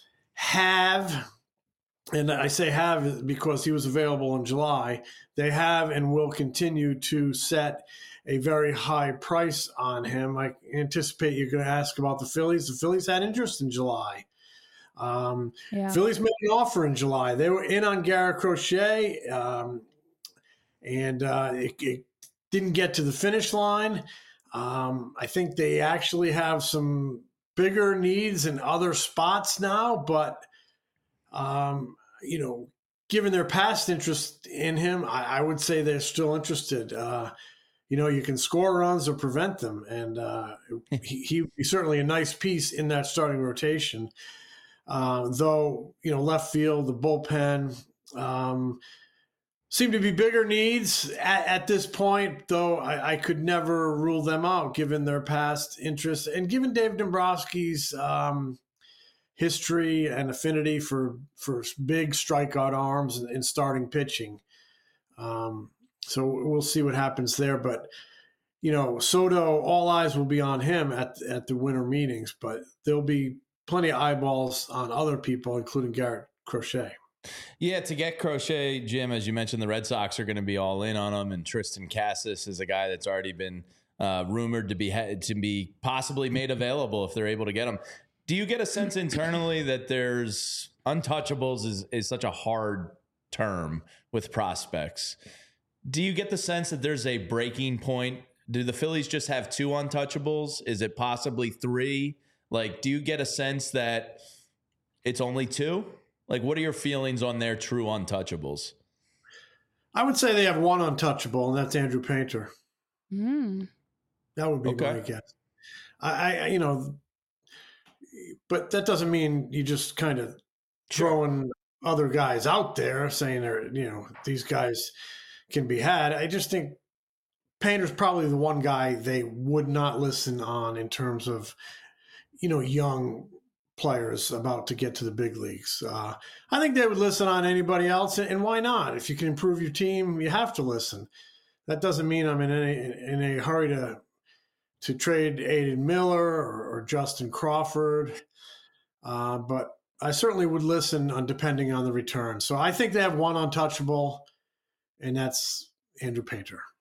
have, and I say have because he was available in July, they have and will continue to set a very high price on him. I anticipate you're going to ask about the Phillies. The Phillies had interest in July. Um, yeah. Phillies made an offer in July. They were in on Garrett Crochet, um, and uh, it, it didn't get to the finish line. Um, I think they actually have some bigger needs in other spots now, but, um, you know, given their past interest in him, I, I would say they're still interested. Uh, you know, you can score runs or prevent them, and uh, he, he would be certainly a nice piece in that starting rotation. Uh, though, you know, left field, the bullpen um, seem to be bigger needs at, at this point, though I, I could never rule them out given their past interests and given Dave Dombrowski's um, history and affinity for, for big strikeout arms and, and starting pitching. Um, so we'll see what happens there. But, you know, Soto, all eyes will be on him at, at the winter meetings, but there'll be plenty of eyeballs on other people, including Garrett Crochet. Yeah, to get Crochet, Jim, as you mentioned, the Red Sox are going to be all in on him, and Tristan Cassis is a guy that's already been uh, rumored to be to be possibly made available if they're able to get him. Do you get a sense internally that there's untouchables is, is such a hard term with prospects? Do you get the sense that there's a breaking point? Do the Phillies just have two untouchables? Is it possibly three? Like, do you get a sense that it's only two? Like, what are your feelings on their true untouchables? I would say they have one untouchable, and that's Andrew Painter. Mm. That would be okay. my guess. I, I, you know, but that doesn't mean you just kind of throwing sure. other guys out there saying they're, you know, these guys can be had. I just think Painter's probably the one guy they would not listen on in terms of, you know, young players about to get to the big leagues. Uh, I think they would listen on anybody else, and why not? If you can improve your team, you have to listen. That doesn't mean I'm in any in a hurry to to trade Aiden Miller or, or Justin Crawford, uh, but I certainly would listen on depending on the return. So I think they have one untouchable, and that's Andrew Painter.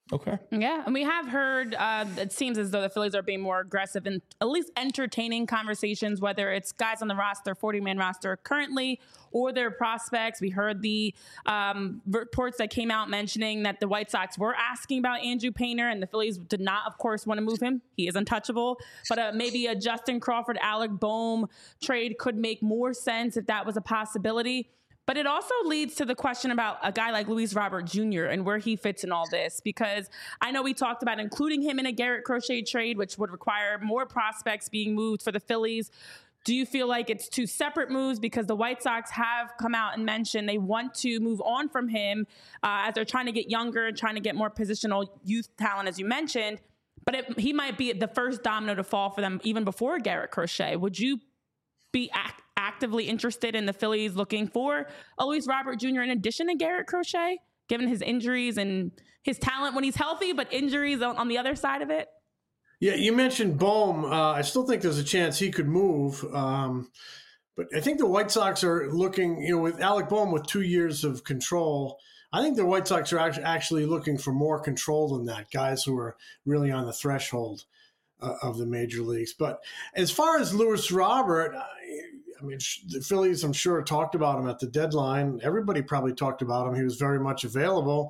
Okay. Yeah, and we have heard, uh, it seems as though the Phillies are being more aggressive in at least entertaining conversations, whether it's guys on the roster, forty-man roster currently, or their prospects. We heard the um, reports that came out mentioning that the White Sox were asking about Andrew Painter, and the Phillies did not, of course, want to move him. He is untouchable. But uh, maybe a Justin Crawford, Alec Bohm trade could make more sense if that was a possibility. But it also leads to the question about a guy like Luis Robert Junior and where he fits in all this, because I know we talked about including him in a Garrett Crochet trade, which would require more prospects being moved for the Phillies. Do you feel like it's two separate moves? Because the White Sox have come out and mentioned they want to move on from him uh, as they're trying to get younger and trying to get more positional youth talent, as you mentioned. But it, he might be the first domino to fall for them even before Garrett Crochet. Would you be act- actively interested in the Phillies looking for a Luis Robert Junior in addition to Garrett Crochet, given his injuries and his talent when he's healthy, but injuries on, on the other side of it? Yeah, you mentioned Bohm. Uh, I still think there's a chance he could move. Um, but I think the White Sox are looking, you know, with Alec Bohm with two years of control, I think the White Sox are actually looking for more control than that, guys who are really on the threshold uh, of the major leagues. But as far as Luis Robert, I, I mean, the Phillies, I'm sure, talked about him at the deadline. Everybody probably talked about him. He was very much available.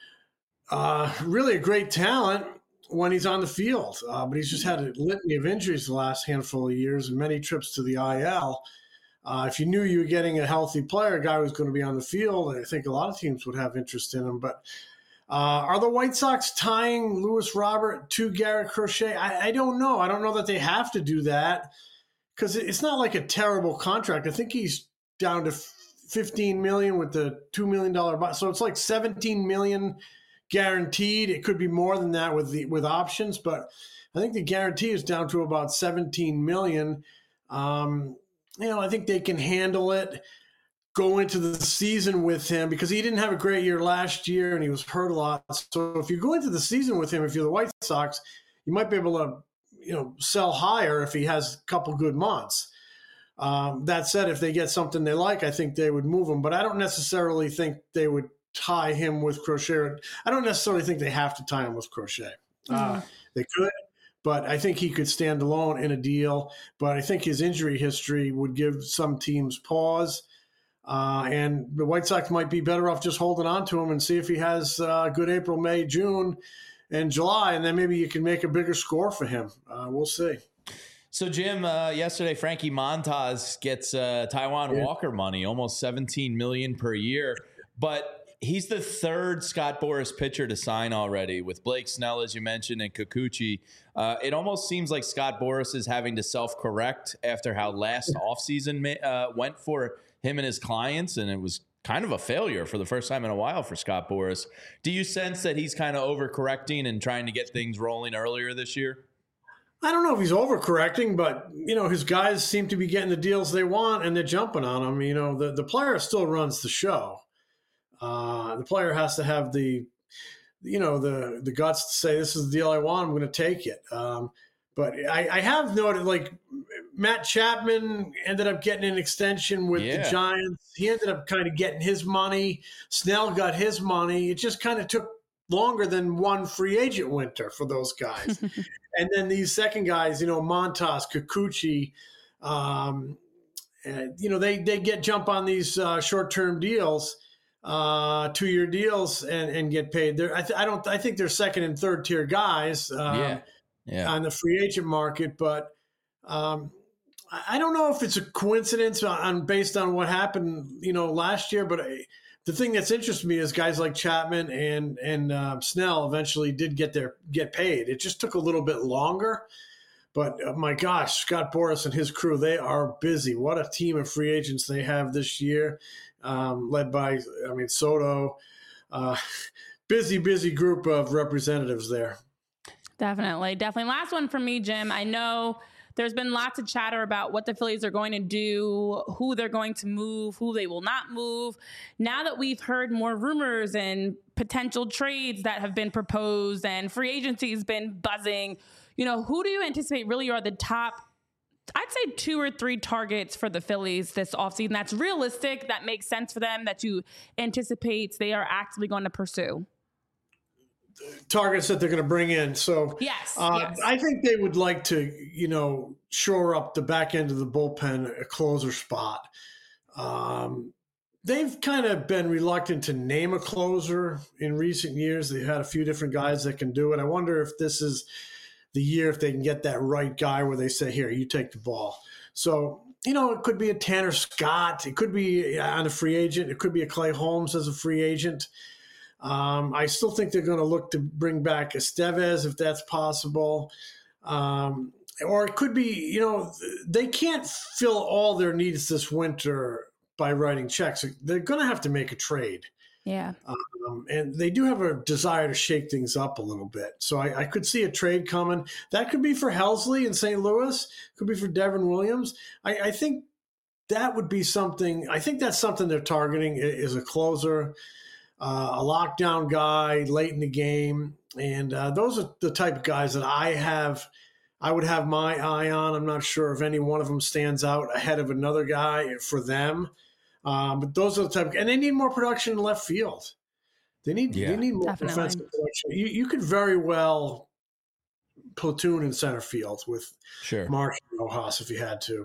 Uh, really a great talent when he's on the field, uh, but he's just had a litany of injuries the last handful of years and many trips to the I L. Uh, if you knew you were getting a healthy player, a guy who was going to be on the field, I think a lot of teams would have interest in him. But uh, are the White Sox tying Luis Robert to Garrett Crochet? I, I don't know. I don't know that they have to do that, because it's not like a terrible contract. I think he's down to fifteen million dollars with the two million dollars. So it's like seventeen million dollars guaranteed. It could be more than that with the with options, but I think the guarantee is down to about seventeen million dollars. Um, you know, I think they can handle it, go into the season with him, because he didn't have a great year last year and he was hurt a lot. So if you go into the season with him, if you're the White Sox, you might be able to, you know, sell higher if he has a couple good months. Um, that said, if they get something they like, I think they would move him. But I don't necessarily think they would tie him with Crochet. I don't necessarily think they have to tie him with Crochet. Mm-hmm. Uh, they could, but I think he could stand alone in a deal. But I think his injury history would give some teams pause. Uh, and the White Sox might be better off just holding on to him and see if he has a uh, good April, May, June, and July, and then maybe you can make a bigger score for him. Uh, we'll see. So, Jim, uh, yesterday, Frankie Montas gets uh, Taijuan yeah. Walker money, almost seventeen million dollars per year. But he's the third Scott Boras pitcher to sign already, with Blake Snell, as you mentioned, and Kikuchi. Uh, it almost seems like Scott Boras is having to self-correct after how last offseason uh, went for him and his clients, and it was kind of a failure for the first time in a while for Scott Boras. Do you sense that he's kind of overcorrecting and trying to get things rolling earlier this year? I don't know if he's overcorrecting, but, you know, his guys seem to be getting the deals they want and they're jumping on them. You know, the, the player still runs the show. Uh, the player has to have the, you know, the, the guts to say, this is the deal I want, I'm going to take it. Um, but I, I have noted, like, Matt Chapman ended up getting an extension with yeah. the Giants. He ended up kind of getting his money. Snell got his money. It just kind of took longer than one free agent winter for those guys. And then these second guys, you know, Montas, Kikuchi, um, and, you know, they, they get jump on these uh, short-term deals, uh, two-year deals, and, and get paid. They're, I, th- I don't. I think they're second and third-tier guys um, yeah. Yeah. on the free agent market, but um, I don't know if it's a coincidence on based on what happened, you know, last year. But I, the thing that's interested me is guys like Chapman and and uh, Snell eventually did get their get paid. It just took a little bit longer. But uh, my gosh, Scott Boras and his crew, they are busy. What a team of free agents they have this year, um, led by, I mean, Soto. Uh, busy, busy group of representatives there. Definitely, definitely. Last one for me, Jim. I know there's been lots of chatter about what the Phillies are going to do, who they're going to move, who they will not move. Now that we've heard more rumors and potential trades that have been proposed and free agency has been buzzing, you know, who do you anticipate really are the top, I'd say two or three targets for the Phillies this offseason that's realistic, that makes sense for them, that you anticipate they are actively going to pursue? targets that they're going to bring in. So Yes, uh, yes. I think they would like to, you know, shore up the back end of the bullpen, a closer spot. Um, they've kind of been reluctant to name a closer in recent years. They've had a few different guys that can do it. I wonder if this is the year if they can get that right guy where they say, here, you take the ball. So, you know, it could be a Tanner Scott. It could be on a free agent. It could be a Clay Holmes as a free agent. Um, I still think they're going to look to bring back Estevez if that's possible. Um, or it could be, you know, they can't fill all their needs this winter by writing checks. They're going to have to make a trade. Yeah. Um, and they do have a desire to shake things up a little bit. So I, I could see a trade coming. That could be for Helsley in Saint Louis. Could be for Devin Williams. I, I think that would be something. I think that's something they're targeting is a closer, uh, a lockdown guy late in the game. And uh, those are the type of guys that I have – I would have my eye on. I'm not sure if any one of them stands out ahead of another guy for them. Um, but those are the type of, and they need more production in left field. They need Yeah, they need more definitely. defensive production. You, you could very well platoon in center field with Sure. Mark and Rojas if you had to.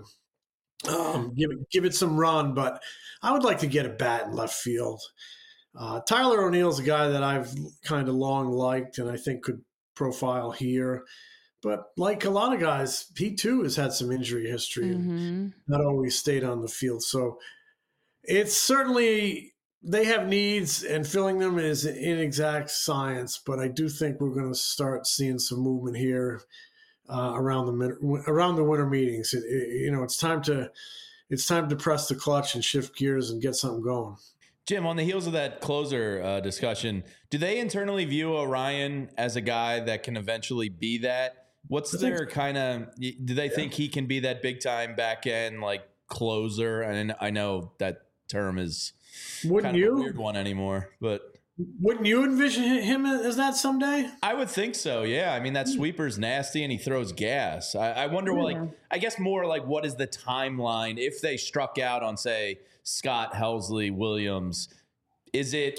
Um, give it give it some run, but I would like to get a bat in left field. Uh, Tyler O'Neill's a guy that I've kind of long liked and I think could profile here. But like a lot of guys, he too has had some injury history Mm-hmm. and not always stayed on the field. So it's certainly they have needs, and filling them is an inexact science. But I do think we're going to start seeing some movement here uh, around the around the winter meetings. It, it, you know, it's time to it's time to press the clutch and shift gears and get something going. Jim, on the heels of that closer uh, discussion, do they internally view Orion as a guy that can eventually be that? What's their kind of, do they think he can be that big time back end, like closer? And I know that term is Wouldn't kind of you? a weird one anymore, but Wouldn't you envision him as that someday? I would think so. Yeah. I mean, that sweeper's nasty and he throws gas. I, I wonder, Yeah. like, I guess more like what is the timeline if they struck out on, say, Scott, Helsley, Williams? Is it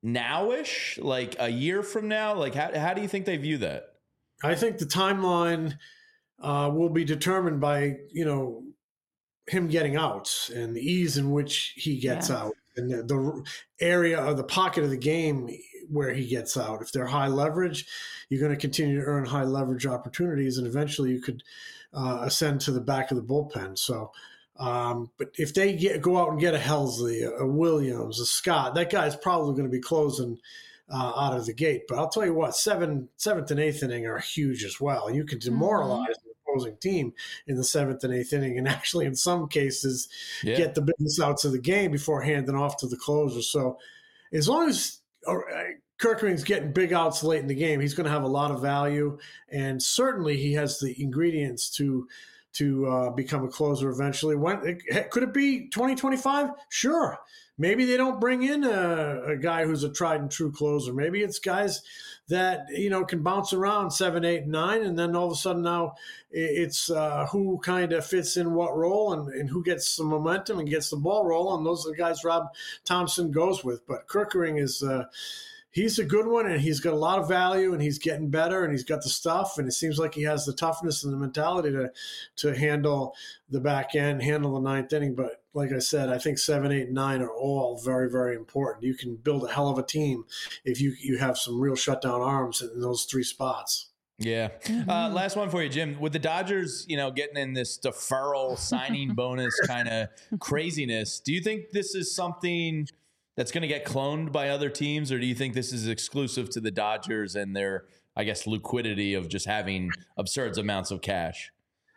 nowish, like a year from now? Like, how, how do you think they view that? I think the timeline uh, will be determined by, you know, him getting outs and the ease in which he gets Yeah. out and the, the area or the pocket of the game where he gets out. If they're high leverage, you're going to continue to earn high leverage opportunities, and eventually you could uh, ascend to the back of the bullpen. So, um, but if they get, go out and get a Helsley, a Williams, a Scott, that guy's probably going to be closing Uh, out of the gate. But I'll tell you what, seven, seventh and eighth inning are huge as well. You can demoralize mm-hmm. the opposing team in the seventh and eighth inning, and actually in some cases Yeah. get the business outs of the game before handing off to the closer. So as long as uh, Kerkering's getting big outs late in the game, he's going to have a lot of value, and certainly he has the ingredients to to uh, become a closer eventually. When it, could it be twenty twenty-five? Sure. Maybe they don't bring in a, a guy who's a tried and true closer. Maybe it's guys that, you know, can bounce around seven, eight, nine, and then all of a sudden now it's uh, who kind of fits in what role and, and who gets some momentum and gets the ball rolling. Those are the guys Rob Thompson goes with. But Kerkering is uh, he's a good one, and he's got a lot of value, and he's getting better, and he's got the stuff, and it seems like he has the toughness and the mentality to to handle the back end, handle the ninth inning. But like I said, I think seven, eight, nine are all very, very important. You can build a hell of a team if you you have some real shutdown arms in those three spots. Yeah. Mm-hmm. Uh, last one for you, Jim. With the Dodgers, you know, getting in this deferral signing bonus kind of craziness, do you think this is something that's going to get cloned by other teams, or do you think this is exclusive to the Dodgers and their, I guess, liquidity of just having absurd amounts of cash?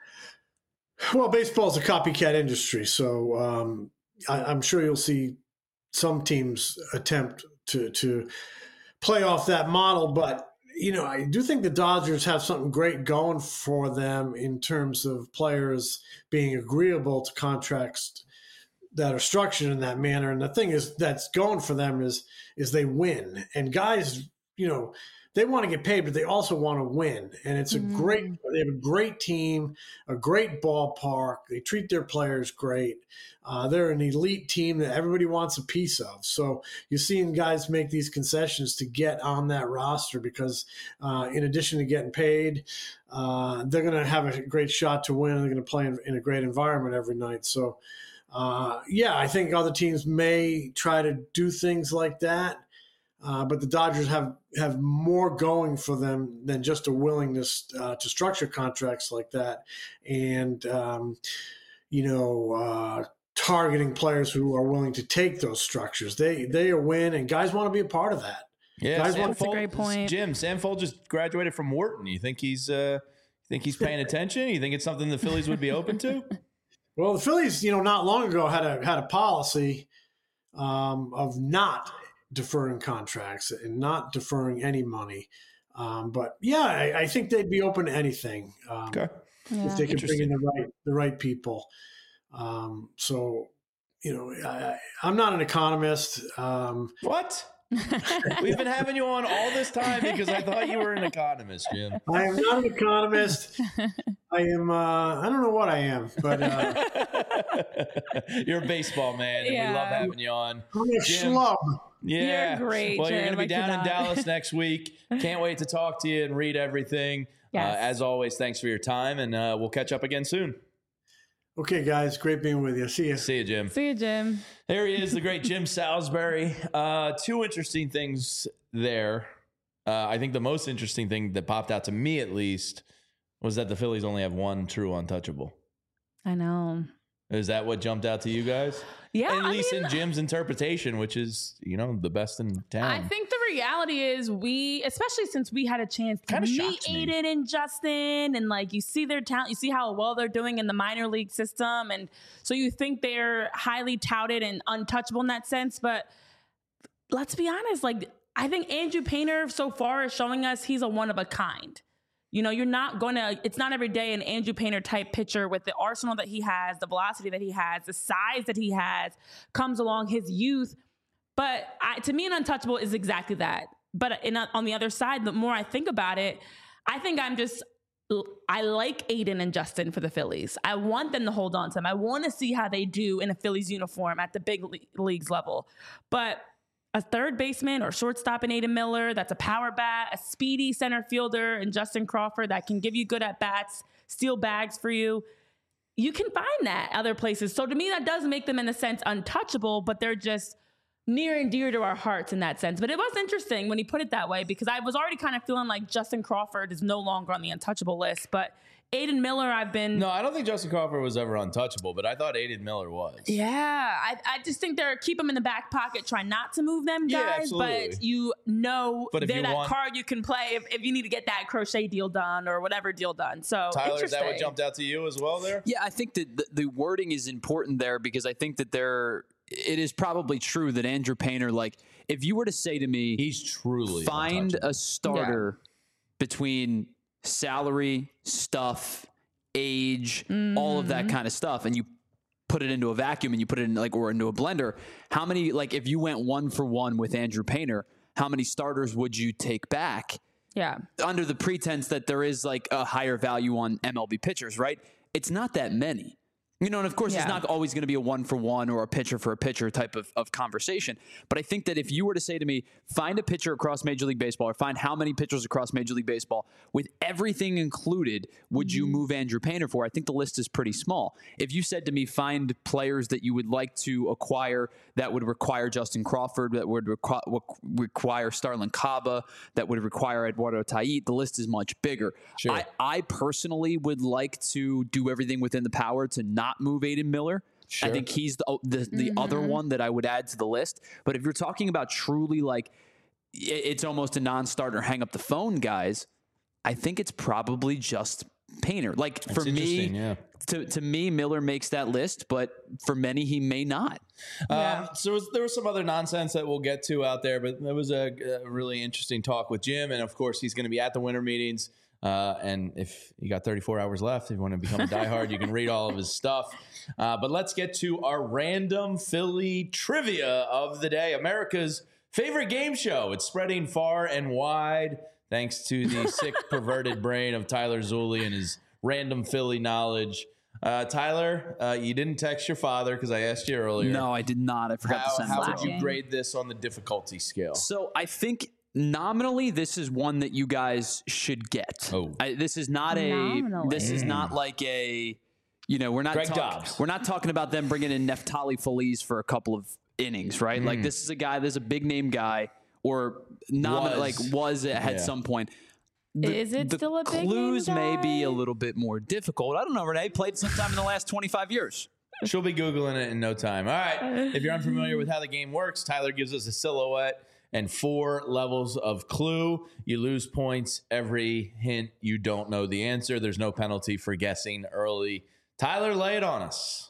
Well, baseball is a copycat industry, so um, I, I'm sure you'll see some teams attempt to to play off that model. But, you know, I do think the Dodgers have something great going for them in terms of players being agreeable to contracts that are structured in that manner. And the thing is that's going for them is is they win. And guys, you know, they want to get paid, but they also want to win. And it's a Mm. great, they have a great team, a great ballpark. They treat their players great. Uh, they're an elite team that everybody wants a piece of. So you're seeing guys make these concessions to get on that roster because uh, in addition to getting paid, uh, they're going to have a great shot to win. They're going to play in, in a great environment every night. So, uh, yeah, I think other teams may try to do things like that. Uh, but the Dodgers have, have more going for them than just a willingness uh, to structure contracts like that. And, um, you know, uh, targeting players who are willing to take those structures. They they are win, and guys want to be a part of that. Yeah, Guys Sam want- That's a Folt- great point. Jim, Sam Folt just graduated from Wharton. You think he's uh, you think he's paying attention? You think it's something the Phillies would be open to? Well, the Phillies, you know, not long ago had a had a policy um, of not deferring contracts and not deferring any money. Um, but yeah, I, I think they'd be open to anything um, Okay. Yeah. if they can bring in Interesting. the right the right people. Um, so, you know, I, I'm not an economist. Um, What? We've been having you on all this time because I thought you were an economist, Jim. I am not an economist. I am. Uh, I don't know what I am, but uh, You're a baseball man, and we Yeah. love having you on. I'm a Jim. schlub. Yeah, You're great, Well, you're Jim. going to be I down in cannot. Dallas next week. Can't wait to talk to you and read everything. Yes. Uh, as always, thanks for your time, and uh, we'll catch up again soon. Okay, guys, great being with you. See you. See you, Jim. See you, Jim. There he is, the great Jim Salisbury. Uh, two interesting things there. Uh, I think the most interesting thing that popped out to me, at least, was that the Phillies only have one true untouchable. I know. Is that what jumped out to you guys? Yeah, At I least mean, in Jim's interpretation, which is, you know, the best in town. I think the reality is we, especially since we had a chance to Kinda meet shocks me. Aiden and Justin, and like you see their talent, you see how well they're doing in the minor league system, and so you think they're highly touted and untouchable in that sense. But let's be honest, like I think Andrew Painter so far is showing us he's a one of a kind. You know, you're not going to, it's not every day an Andrew Painter type pitcher with the arsenal that he has, the velocity that he has, the size that he has, comes along, his youth. But I, to me, an untouchable is exactly that. But in, on the other side, the more I think about it, I think I'm just, I like Aiden and Justin for the Phillies. I want them to hold on to them. I want to see how they do in a Phillies uniform at the big le- leagues level. But a third baseman or shortstop in Aiden Miller that's a power bat, a speedy center fielder in Justin Crawford that can give you good at bats, steal bags for you. You can find that other places. So to me, that does make them in a sense untouchable, but they're just near and dear to our hearts in that sense. But it was interesting when he put it that way because I was already kind of feeling like Justin Crawford is no longer on the untouchable list, but Aiden Miller, I've been... No, I don't think Justin Crawford was ever untouchable, but I thought Aiden Miller was. Yeah, I, I just think they're keep them in the back pocket, try not to move them Yeah, guys, absolutely. but you know But if they're you that want- card you can play if, if you need to get that crochet deal done or whatever deal done. So Tyler, is that what interesting. jumped out to you as well there? Yeah, I think that the, the wording is important there because I think that there it is probably true that Andrew Painter, like, if you were to say to me, He's truly find untouchable. a starter between salary, stuff, age, all of that kind of stuff, and you put it into a vacuum and you put it in like or into a blender, how many, like if you went one for one with Andrew Painter, how many starters would you take back? Yeah. Under the pretense that there is like a higher value on M L B pitchers, right? It's not that many. You know, and of course, Yeah. it's not always going to be a one for one or a pitcher for a pitcher type of, of conversation. But I think that if you were to say to me, find a pitcher across Major League Baseball or find how many pitchers across Major League Baseball with everything included, would you move Andrew Painter for? I think the list is pretty small. If you said to me, find players that you would like to acquire that would require Justin Crawford, that would requ- require Starlin Caba, that would require Eduardo Tait, the list is much bigger. Sure. I, I personally would like to do everything within the power to not move Aiden Miller. Sure. I think he's the the, the other one that I would add to the list. But if you're talking about truly like i- it's almost a non-starter, hang up the phone, guys, I think it's probably just Painter. Like for That's interesting, me, yeah. to to me, Miller makes that list, but for many he may not. Yeah. Um, so was, there was some other nonsense that we'll get to out there, but there was a, a really interesting talk with Jim, and of course he's going to be at the winter meetings. Uh, and if you got thirty-four hours left, if you want to become a diehard, you can read all of his stuff. Uh, but let's get to our random Philly trivia of the day, America's favorite game show. It's spreading far and wide. thanks to the sick, perverted brain of Tyler Zulli and his random Philly knowledge. Uh, Tyler, uh, you didn't text your father because I asked you earlier. No, I did not. I forgot How, to send how it would to you him. grade this on the difficulty scale? So I think nominally this is one that you guys should get. Oh. I, this is not a. Nominally. This is not like a. You know, we're not Greg talk, Dobbs. we're not talking about them bringing in Neftali Feliz for a couple of innings, right? Like this is a guy. There's a big name guy, or nomin- Was. like was at Yeah. some point. The, Is it the still a big name clues may be a guy? little bit more difficult. I don't know. Renee played sometime in the last twenty-five years. She'll be Googling it in no time. All right. If you're unfamiliar with how the game works, Tyler gives us a silhouette and four levels of clue. You lose points every hint you don't know the answer. There's no penalty for guessing early. Tyler, lay it on us.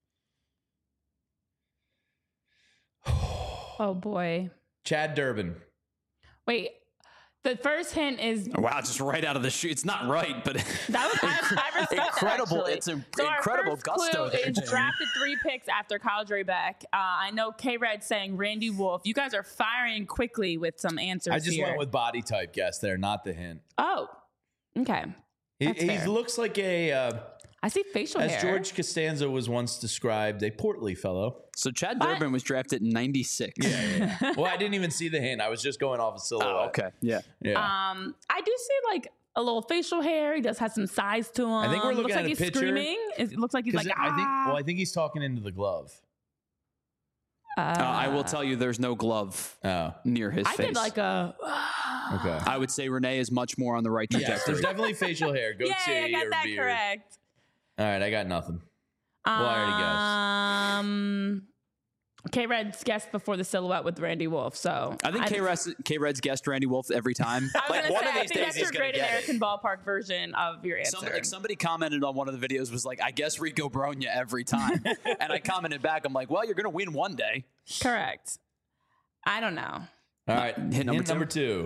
Oh boy. Chad Durbin. Wait. The first hint is Wow, just right out of the chute. It's not right, but that was I, I respect that, incredible. actually. It's an So our incredible first gusto clue there, is Jamie. drafted three picks after Kyle Drabek. Uh, I know K-Red saying Randy Wolf. You guys are firing quickly with some answers I just here. went with body type guess there, not the hint. Oh, okay. He, That's he fair. looks like a, uh, I see facial as hair. George Costanza was once described, a portly fellow. So Chad What? Durbin was drafted in ninety-six. Well, I didn't even see the hint. I was just going off a silhouette. Oh, okay. Yeah. Yeah. Um, I do see like a little facial hair. He does have some size to him. I think we're looking looks at like a he's picture. screaming. It looks like he's 'Cause like I think, ah. well, I think he's talking into the glove. Uh, Uh, I will tell you, there's no glove Oh, near his I face. did like a. okay. I would say Renee is much more on the right Yes, trajectory. there's definitely facial hair, goatee, Yeah, I got or that beard. correct. All right, I got nothing. Well, I already Um, K Red's guessed before the silhouette with Randy Wolf. So I think K-Red's, K-Red's guessed Randy Wolf every time. I was like gonna one say, of I these think days that's he's your gonna Great get American it. Ballpark version of your answer. Somebody, like somebody commented on one of the videos was like, I guess Rico Bronya every time. And I commented back, I'm like, well, you're going to win one day. Correct. I don't know. All right, Hint hint number number, two. two.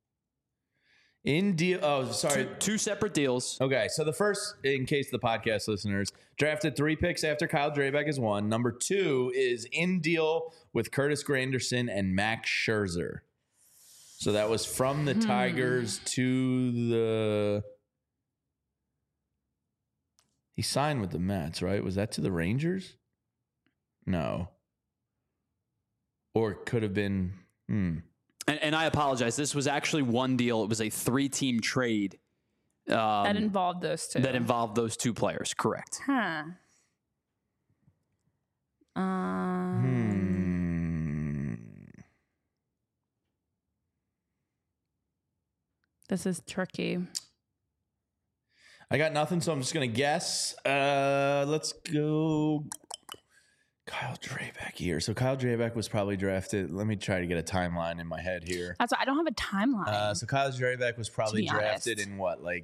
In deal. Oh, sorry. Two, two separate deals. Okay, so the first, in case the podcast listeners, drafted three picks after Kyle Drabek is one. Number two is in deal with Curtis Granderson and Max Scherzer. So that was from the Tigers to the. He signed with the Mets, right? Was that to the Rangers? No. Or it could have been. Hmm. And, and I apologize. This was actually one deal. It was a three-team trade um, That involved those two. that involved those two players. Correct. Huh. Um, Hmm. This is tricky. I got nothing, so I'm just gonna guess. Uh, let's go. Kyle Drabek here. So Kyle Drabek was probably drafted. Let me try to get a timeline in my head here. That's why I don't have a timeline. Uh, so Kyle Drabek was probably be drafted honest. in what, like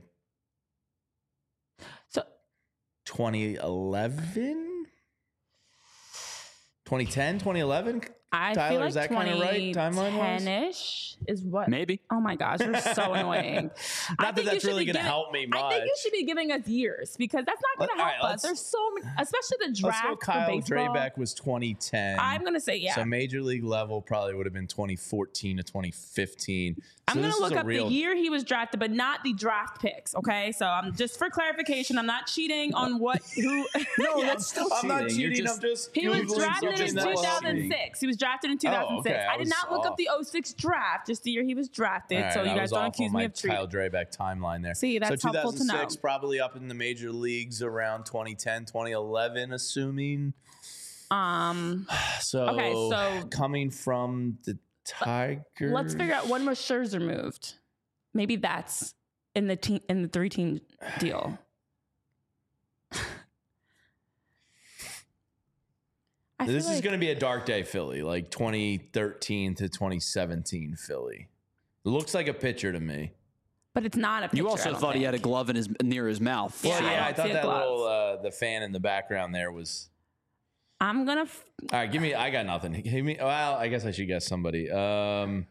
so twenty eleven, twenty ten, twenty eleven? I Tyler, feel like is that kinda right, timeline-wise? ten-ish is what? Maybe. Oh my gosh, you're so annoying. I Not that think you that's should really be going to giving- help me much. I think you should be giving us years because that's not going Let- to all help right, us. let's- There's so many, especially the Let's draft go. Kyle for baseball. Drabek was twenty ten. I'm going to say yeah. So major league level probably would have been twenty fourteen to twenty fifteen. I'm So going this to is look a up real- the year he was drafted, but not the draft picks. Okay, so I'm just for clarification. I'm not cheating on what who. No, Yeah, that's still I'm not cheating. You're cheating. just- I'm just. He was Googling drafted in something that was cheating. two thousand six. He was drafted in two thousand six. okay, I I did was not look off. up the oh six draft, just the year he was drafted. All so right, you I guys was don't off accuse on me my of cheating. Kyle Drabek timeline there. See, that's so helpful to know. two thousand six, probably up in the major leagues around twenty ten, twenty eleven, assuming. Um, So, Okay, so- coming from the Tigers. let's figure out when was Scherzer moved. Maybe that's in the team in the three team deal. I This feel is like- going to be a dark day, Philly, like twenty thirteen to twenty seventeen Philly. Looks like a pitcher to me. but it's not a picture. You I also don't thought he had a think. glove in his near his mouth. Yeah, Well, I yeah, don't I, see thought a that glove. little uh, the fan in the background there was. I'm gonna. F- All right, give me. I got nothing. Give me. Well, I guess I should guess somebody. Um.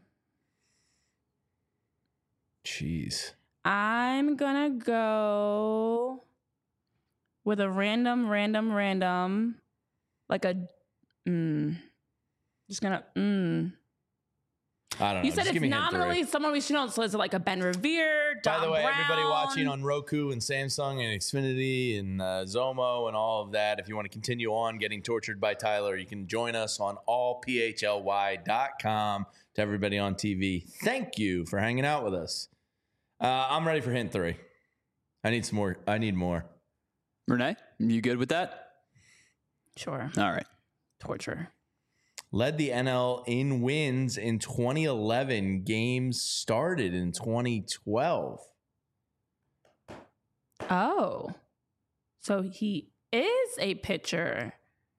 Jeez. I'm gonna go with a random, random, random, like a. Mm, just gonna. Mm. I don't know. You said Just give it's me hint nominally three. someone we should know. So is it like a Ben Revere, Don By the way, Brown? everybody watching on Roku and Samsung and Xfinity and uh, Zomo and all of that, if you want to continue on getting tortured by Tyler, you can join us on all p h l y dot com. To everybody on T V, thank you for hanging out with us. Uh, I'm ready for hint three. I need some more. I need more. Renee, you good with that? Sure. All right. Torture. Led the N L in wins in twenty eleven. Games started in twenty twelve. Oh. So he is a pitcher.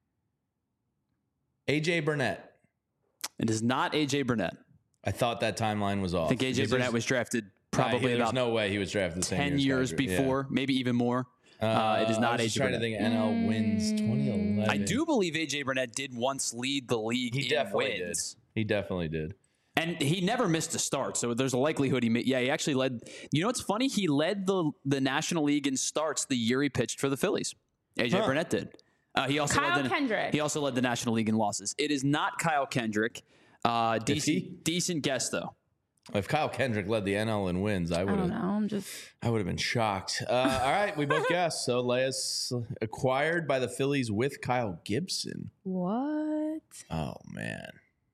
A J Burnett. It is not A J Burnett. I thought that timeline was off. I think A J Because Burnett there's- was drafted Nah, probably there's about no way he was drafted the same ten year years as Geiger. Yeah. before, maybe even more. Uh, it is I not was A just J trying to Burnett. think N L wins twenty eleven. I do believe A J Burnett did once lead the league He in definitely wins. did. He definitely did. And he never missed a start, so there's a likelihood he. Ma- yeah, he actually led. You know what's funny? He led the the National League in starts the year he pitched for the Phillies. A J Huh. Burnett did. Uh, he also Kyle led the, Kendrick. He also led the National League in losses. It is not Kyle Kendrick. Uh, he? decent, decent guess though. If Kyle Kendrick led the N L in wins, I I would don't have. know. I'm just. I would have been shocked. Uh, all right, we both guessed. So Leia's acquired by the Phillies with Kyle Gibson. What? Oh man.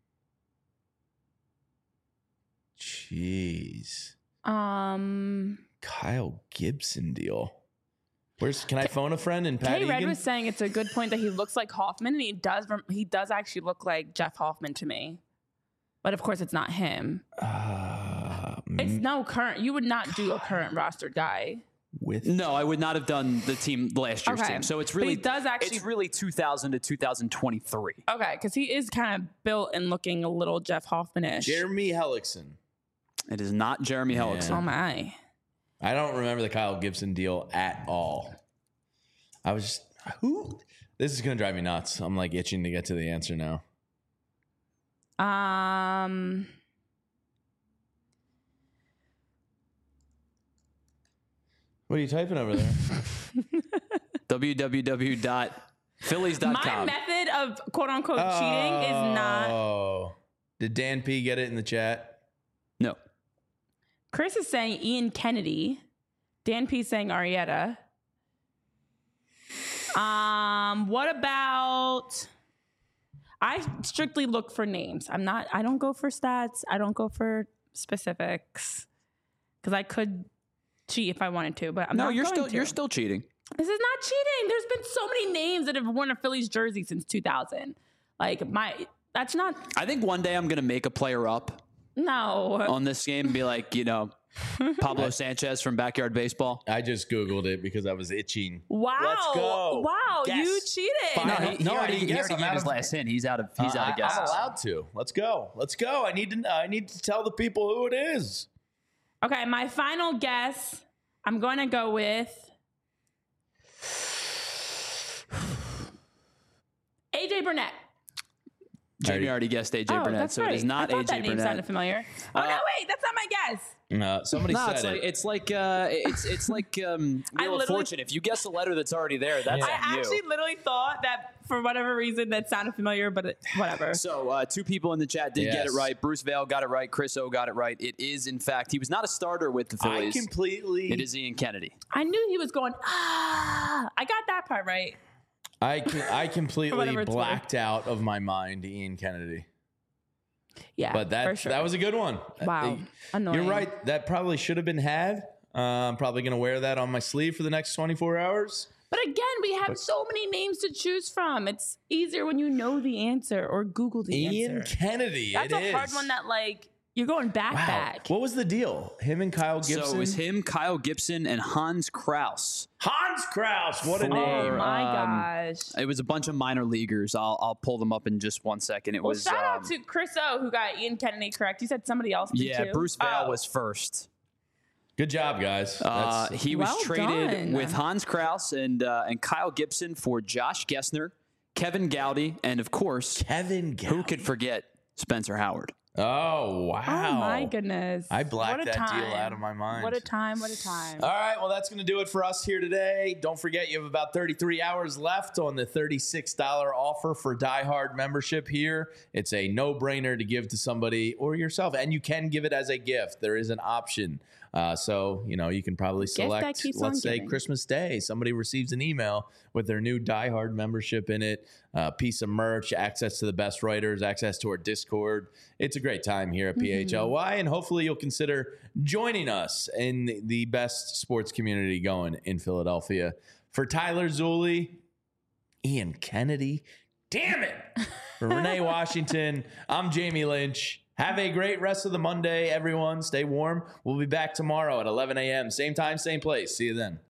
Jeez. Um. Kyle Gibson deal. Where's can I phone a friend in Pat K Red Egan? was saying it's a good point that he looks like Hoffman, and he does. rem- He does actually look like Jeff Hoffman to me. But of course, it's not him. Uh, It's m- no current. You would not do a current rostered guy. with No, I would not have done the team last year's Okay. team. So it's But he really does actually- it's really two thousand to two thousand twenty-three. Okay, because he is kind of built and looking a little Jeff Hoffman-ish. Jeremy Hellickson. It is not Jeremy Yeah. Hellickson. Oh my. I don't remember the Kyle Gibson deal at all. I was just who. This is gonna drive me nuts. I'm like itching to get to the answer now. Um. What are you typing over there? w w w dot phillies dot My com. method of quote unquote cheating is not. Oh, did Dan P get it in the chat? No. Chris is saying Ian Kennedy. Dan P saying Arrieta. Um, what about? I strictly look for names. I'm not. I don't go for stats. I don't go for specifics because I could cheat if I wanted to, but I'm No, not. you're going still to. you're still cheating. This is not cheating. There's been so many names that have worn a Phillies jersey since two thousand. Like my, that's not. I think one day I'm gonna make a player up No. on this game and be like, you know, Pablo Sanchez from Backyard Baseball. I just Googled it because I was itching. Wow. Let's go. Wow. Guess. You cheated. Fine. No, I he, don't- he no, I already, didn't he guess. already I'm gave out his of- last hint. He's out of he's Uh, out of I- guesses. I'm allowed to. Let's go. Let's go. I need to. I need to tell the people who it is. Okay, my final guess, I'm going to go with A J Burnett. Jamie already guessed A J Oh, Burnett, that's so right. it is not I thought A J that name Burnett. sounded familiar. Oh, no, wait, that's not my guess. Uh, somebody No, said it's it. like it's like uh, it's it's like um, I Wheel of literally- Fortune. If you guess a letter that's already there, that's I on you. actually literally thought that for whatever reason that sounded familiar, but it, whatever. So uh, two people in the chat did get Yes. it right. Bruce Vail got it right. Chris O got it right. It is, in fact, he was not a starter with the I Phillies. completely. It is Ian Kennedy. I knew he was going, ah, I got that part right. I can, I completely whatever it's blacked out of my mind Ian Kennedy. Yeah, But that for sure. that was a good one. Wow, Uh, annoying. You're right. That probably should have been had. Uh, I'm probably going to wear that on my sleeve for the next twenty-four hours. But again, we have so many names to choose from. It's easier when you know the answer or Google the Ian answer. Kennedy. That's it a hard is. one that like you're going back Wow. back. What was the deal? Him and Kyle Gibson. So it was him, Kyle Gibson, and Hans Kraus. Hans Kraus. What a For- name. Oh my um, gosh. It was a bunch of minor leaguers. I'll I'll pull them up in just one second. It Well, was shout um, out to Chris O who got Ian Kennedy correct. You said somebody else did yeah, too. Bruce Vail Oh. was first. Good job, guys. Uh, That's- he was Well traded done. with Hans Kraus and uh, and Kyle Gibson for Josh Gessner, Kevin Gowdy, and of course, Kevin. who could forget Spencer Howard? Oh, wow. Oh, my goodness. I blacked What a that time. deal out of my mind. What a time. What a time. All right, well, that's going to do it for us here today. Don't forget, you have about thirty-three hours left on the thirty-six dollars offer for Die Hard membership here. It's a no-brainer to give to somebody or yourself, and you can give it as a gift. There is an option. Uh, so, you know, you can probably select, let's say, giving. Christmas Day. Somebody receives an email with their new Die Hard membership in it, a piece of merch, access to the best writers, access to our Discord. It's a great time here at P H L Y, and hopefully you'll consider joining us in the best sports community going in Philadelphia. For Tyler Zulli, Ian Kennedy, damn it, for Renee Washington, I'm Jamie Lynch. Have a great rest of the Monday, everyone. Stay warm. We'll be back tomorrow at eleven a.m. Same time, same place. See you then.